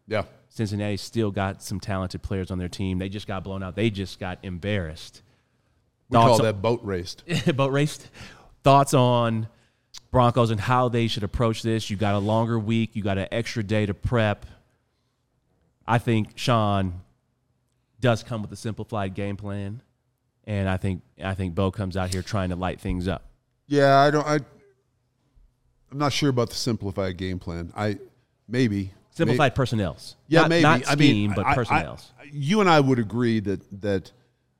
Cincinnati still got some talented players on their team. They just got blown out. They just got embarrassed. We call that boat raced. Boat raced. Thoughts on Broncos and how they should approach this? You got a longer week. You got an extra day to prep. I think Sean does come with a simplified game plan, and I think Bo comes out here trying to light things up. Yeah, I'm not sure about the simplified game plan. Maybe simplified personnels. Yeah, maybe not scheme, but personnels. You and I would agree that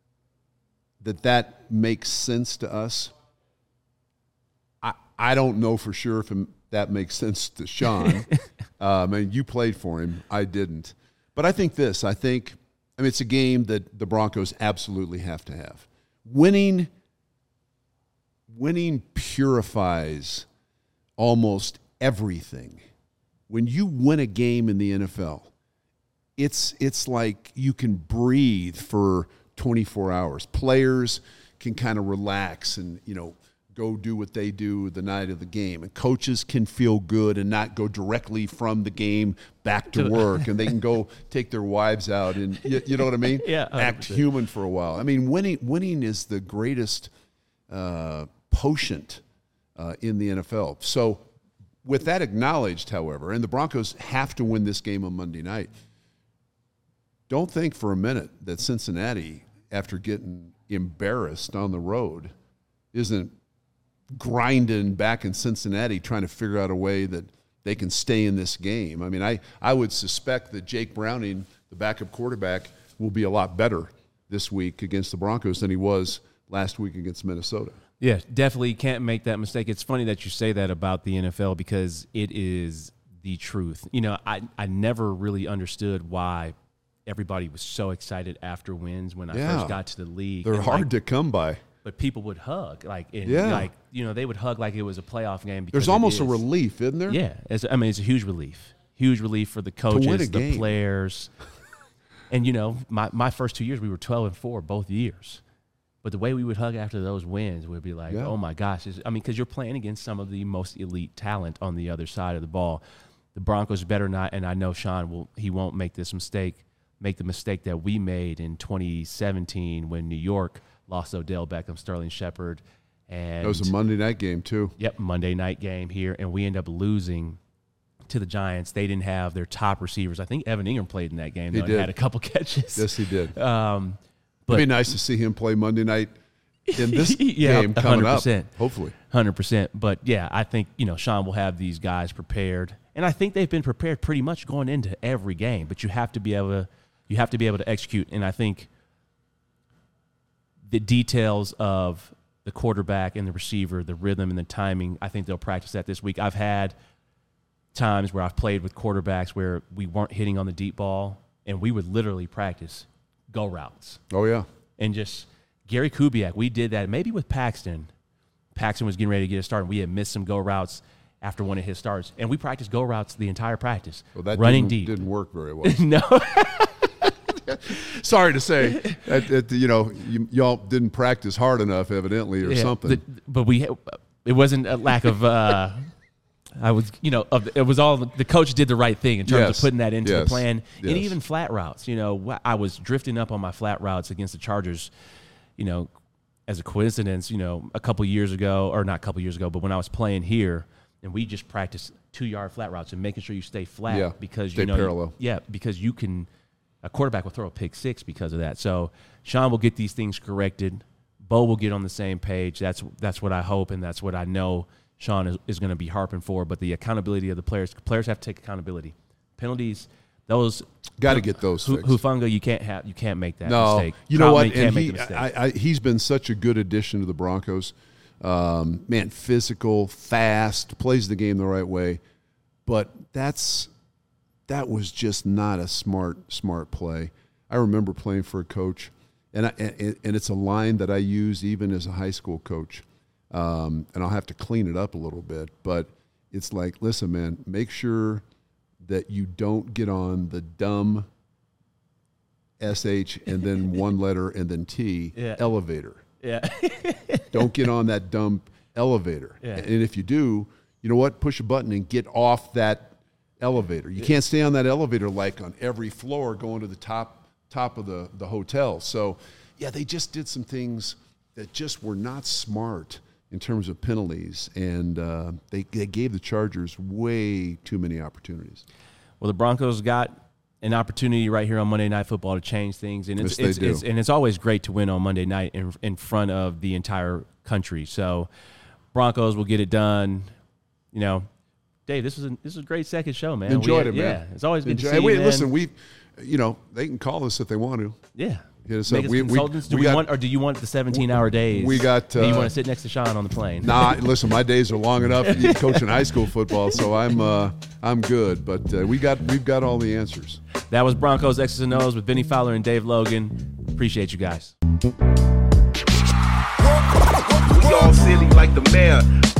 makes sense to us. I don't know for sure if that makes sense to Sean. You played for him. I didn't. But I think this. It's a game that the Broncos absolutely have to have. Winning purifies almost everything. When you win a game in the NFL, it's like you can breathe for 24 hours. Players can kind of relax and, go do what they do the night of the game. And coaches can feel good and not go directly from the game back to work. And they can go take their wives out and, you know what I mean? Yeah, 100%. Act human for a while. Winning is the greatest potent in the NFL. So with that acknowledged, however, and the Broncos have to win this game on Monday night, don't think for a minute that Cincinnati, after getting embarrassed on the road, isn't grinding back in Cincinnati trying to figure out a way that they can stay in this game. I would suspect that Jake Browning, the backup quarterback, will be a lot better this week against the Broncos than he was last week against Minnesota. Yeah, definitely can't make that mistake. It's funny that you say that about the NFL because it is the truth. I never really understood why everybody was so excited after wins when I first got to the league. They're hard to come by. But people would hug, they would hug like it was a playoff game. Because there's almost a relief, isn't there? Yeah, it's a huge relief for the coaches, the players, and my first 2 years we were 12-4 both years, but the way we would hug after those wins would be like, oh my gosh, because you're playing against some of the most elite talent on the other side of the ball. The Broncos better not, and I know Sean won't make the mistake that we made in 2017 when New York lost Odell Beckham, Sterling Shepard. And it was a Monday night game, too. Yep, Monday night game here, and we end up losing to the Giants. They didn't have their top receivers. I think Evan Ingram played in that game. He did. Had a couple catches. Yes, he did. But it'd be nice to see him play Monday night in this game coming 100%. up, hopefully. 100%. But, yeah, I think, Sean will have these guys prepared. And I think they've been prepared pretty much going into every game. But you have to be able to execute. And I think the details of the quarterback and the receiver, the rhythm and the timing, I think they'll practice that this week. I've had times where I've played with quarterbacks where we weren't hitting on the deep ball, and we would literally practice go routes. Oh, yeah. And just Gary Kubiak, we did that maybe with Paxton. Paxton was getting ready to get a start, and we had missed some go routes after one of his starts. And we practiced go routes the entire practice, running deep. Didn't work very well. No. Sorry to say, y'all didn't practice hard enough, evidently, or something. But it wasn't a lack of. It was all the coach did the right thing in terms of putting that into the plan, and even flat routes. I was drifting up on my flat routes against the Chargers. As a coincidence, a couple years ago, or not a couple years ago, but when I was playing here, and we just practiced 2-yard flat routes and making sure you stay flat because stay parallel. Because you can. A quarterback will throw a pick six because of that. So Sean will get these things corrected. Bo will get on the same page. That's what I hope, and that's what I know Sean is going to be harping for. But the accountability of the players have to take accountability. Penalties, those got to get those fixed. Hufanga, you can't make that mistake. You know what? And he's been such a good addition to the Broncos. Physical, fast, plays the game the right way. But that was just not a smart play. I remember playing for a coach, and it's a line that I use even as a high school coach. And I'll have to clean it up a little bit, but it's like, listen, man, make sure that you don't get on the dumb SH and then one letter and then T elevator. Yeah. Don't get on that dumb elevator. Yeah. And if you do, you know what? Push a button and get off that elevator. You can't stay on that elevator like on every floor going to the top of the hotel. So, yeah, they just did some things that just were not smart in terms of penalties, and they gave the Chargers way too many opportunities. Well, the Broncos got an opportunity right here on Monday Night Football to change things, and Yes, they do. it's always great to win on Monday night in front of the entire country. So, Broncos will get it done. You know, Dave, this was a great second show, man. Enjoyed it, man. Yeah, it's always good to see Hey, wait, you, man. listen, they can call us if they want to. Yeah. Hit us Make up. us consultants. Do you want the 17-hour days? We got. Do you want to sit next to Sean on the plane? Nah, listen, my days are long enough coaching high school football, so I'm good. But we've got all the answers. That was Broncos X's and O's with Vinny Fowler and Dave Logan. Appreciate you guys. We all silly like the mayor.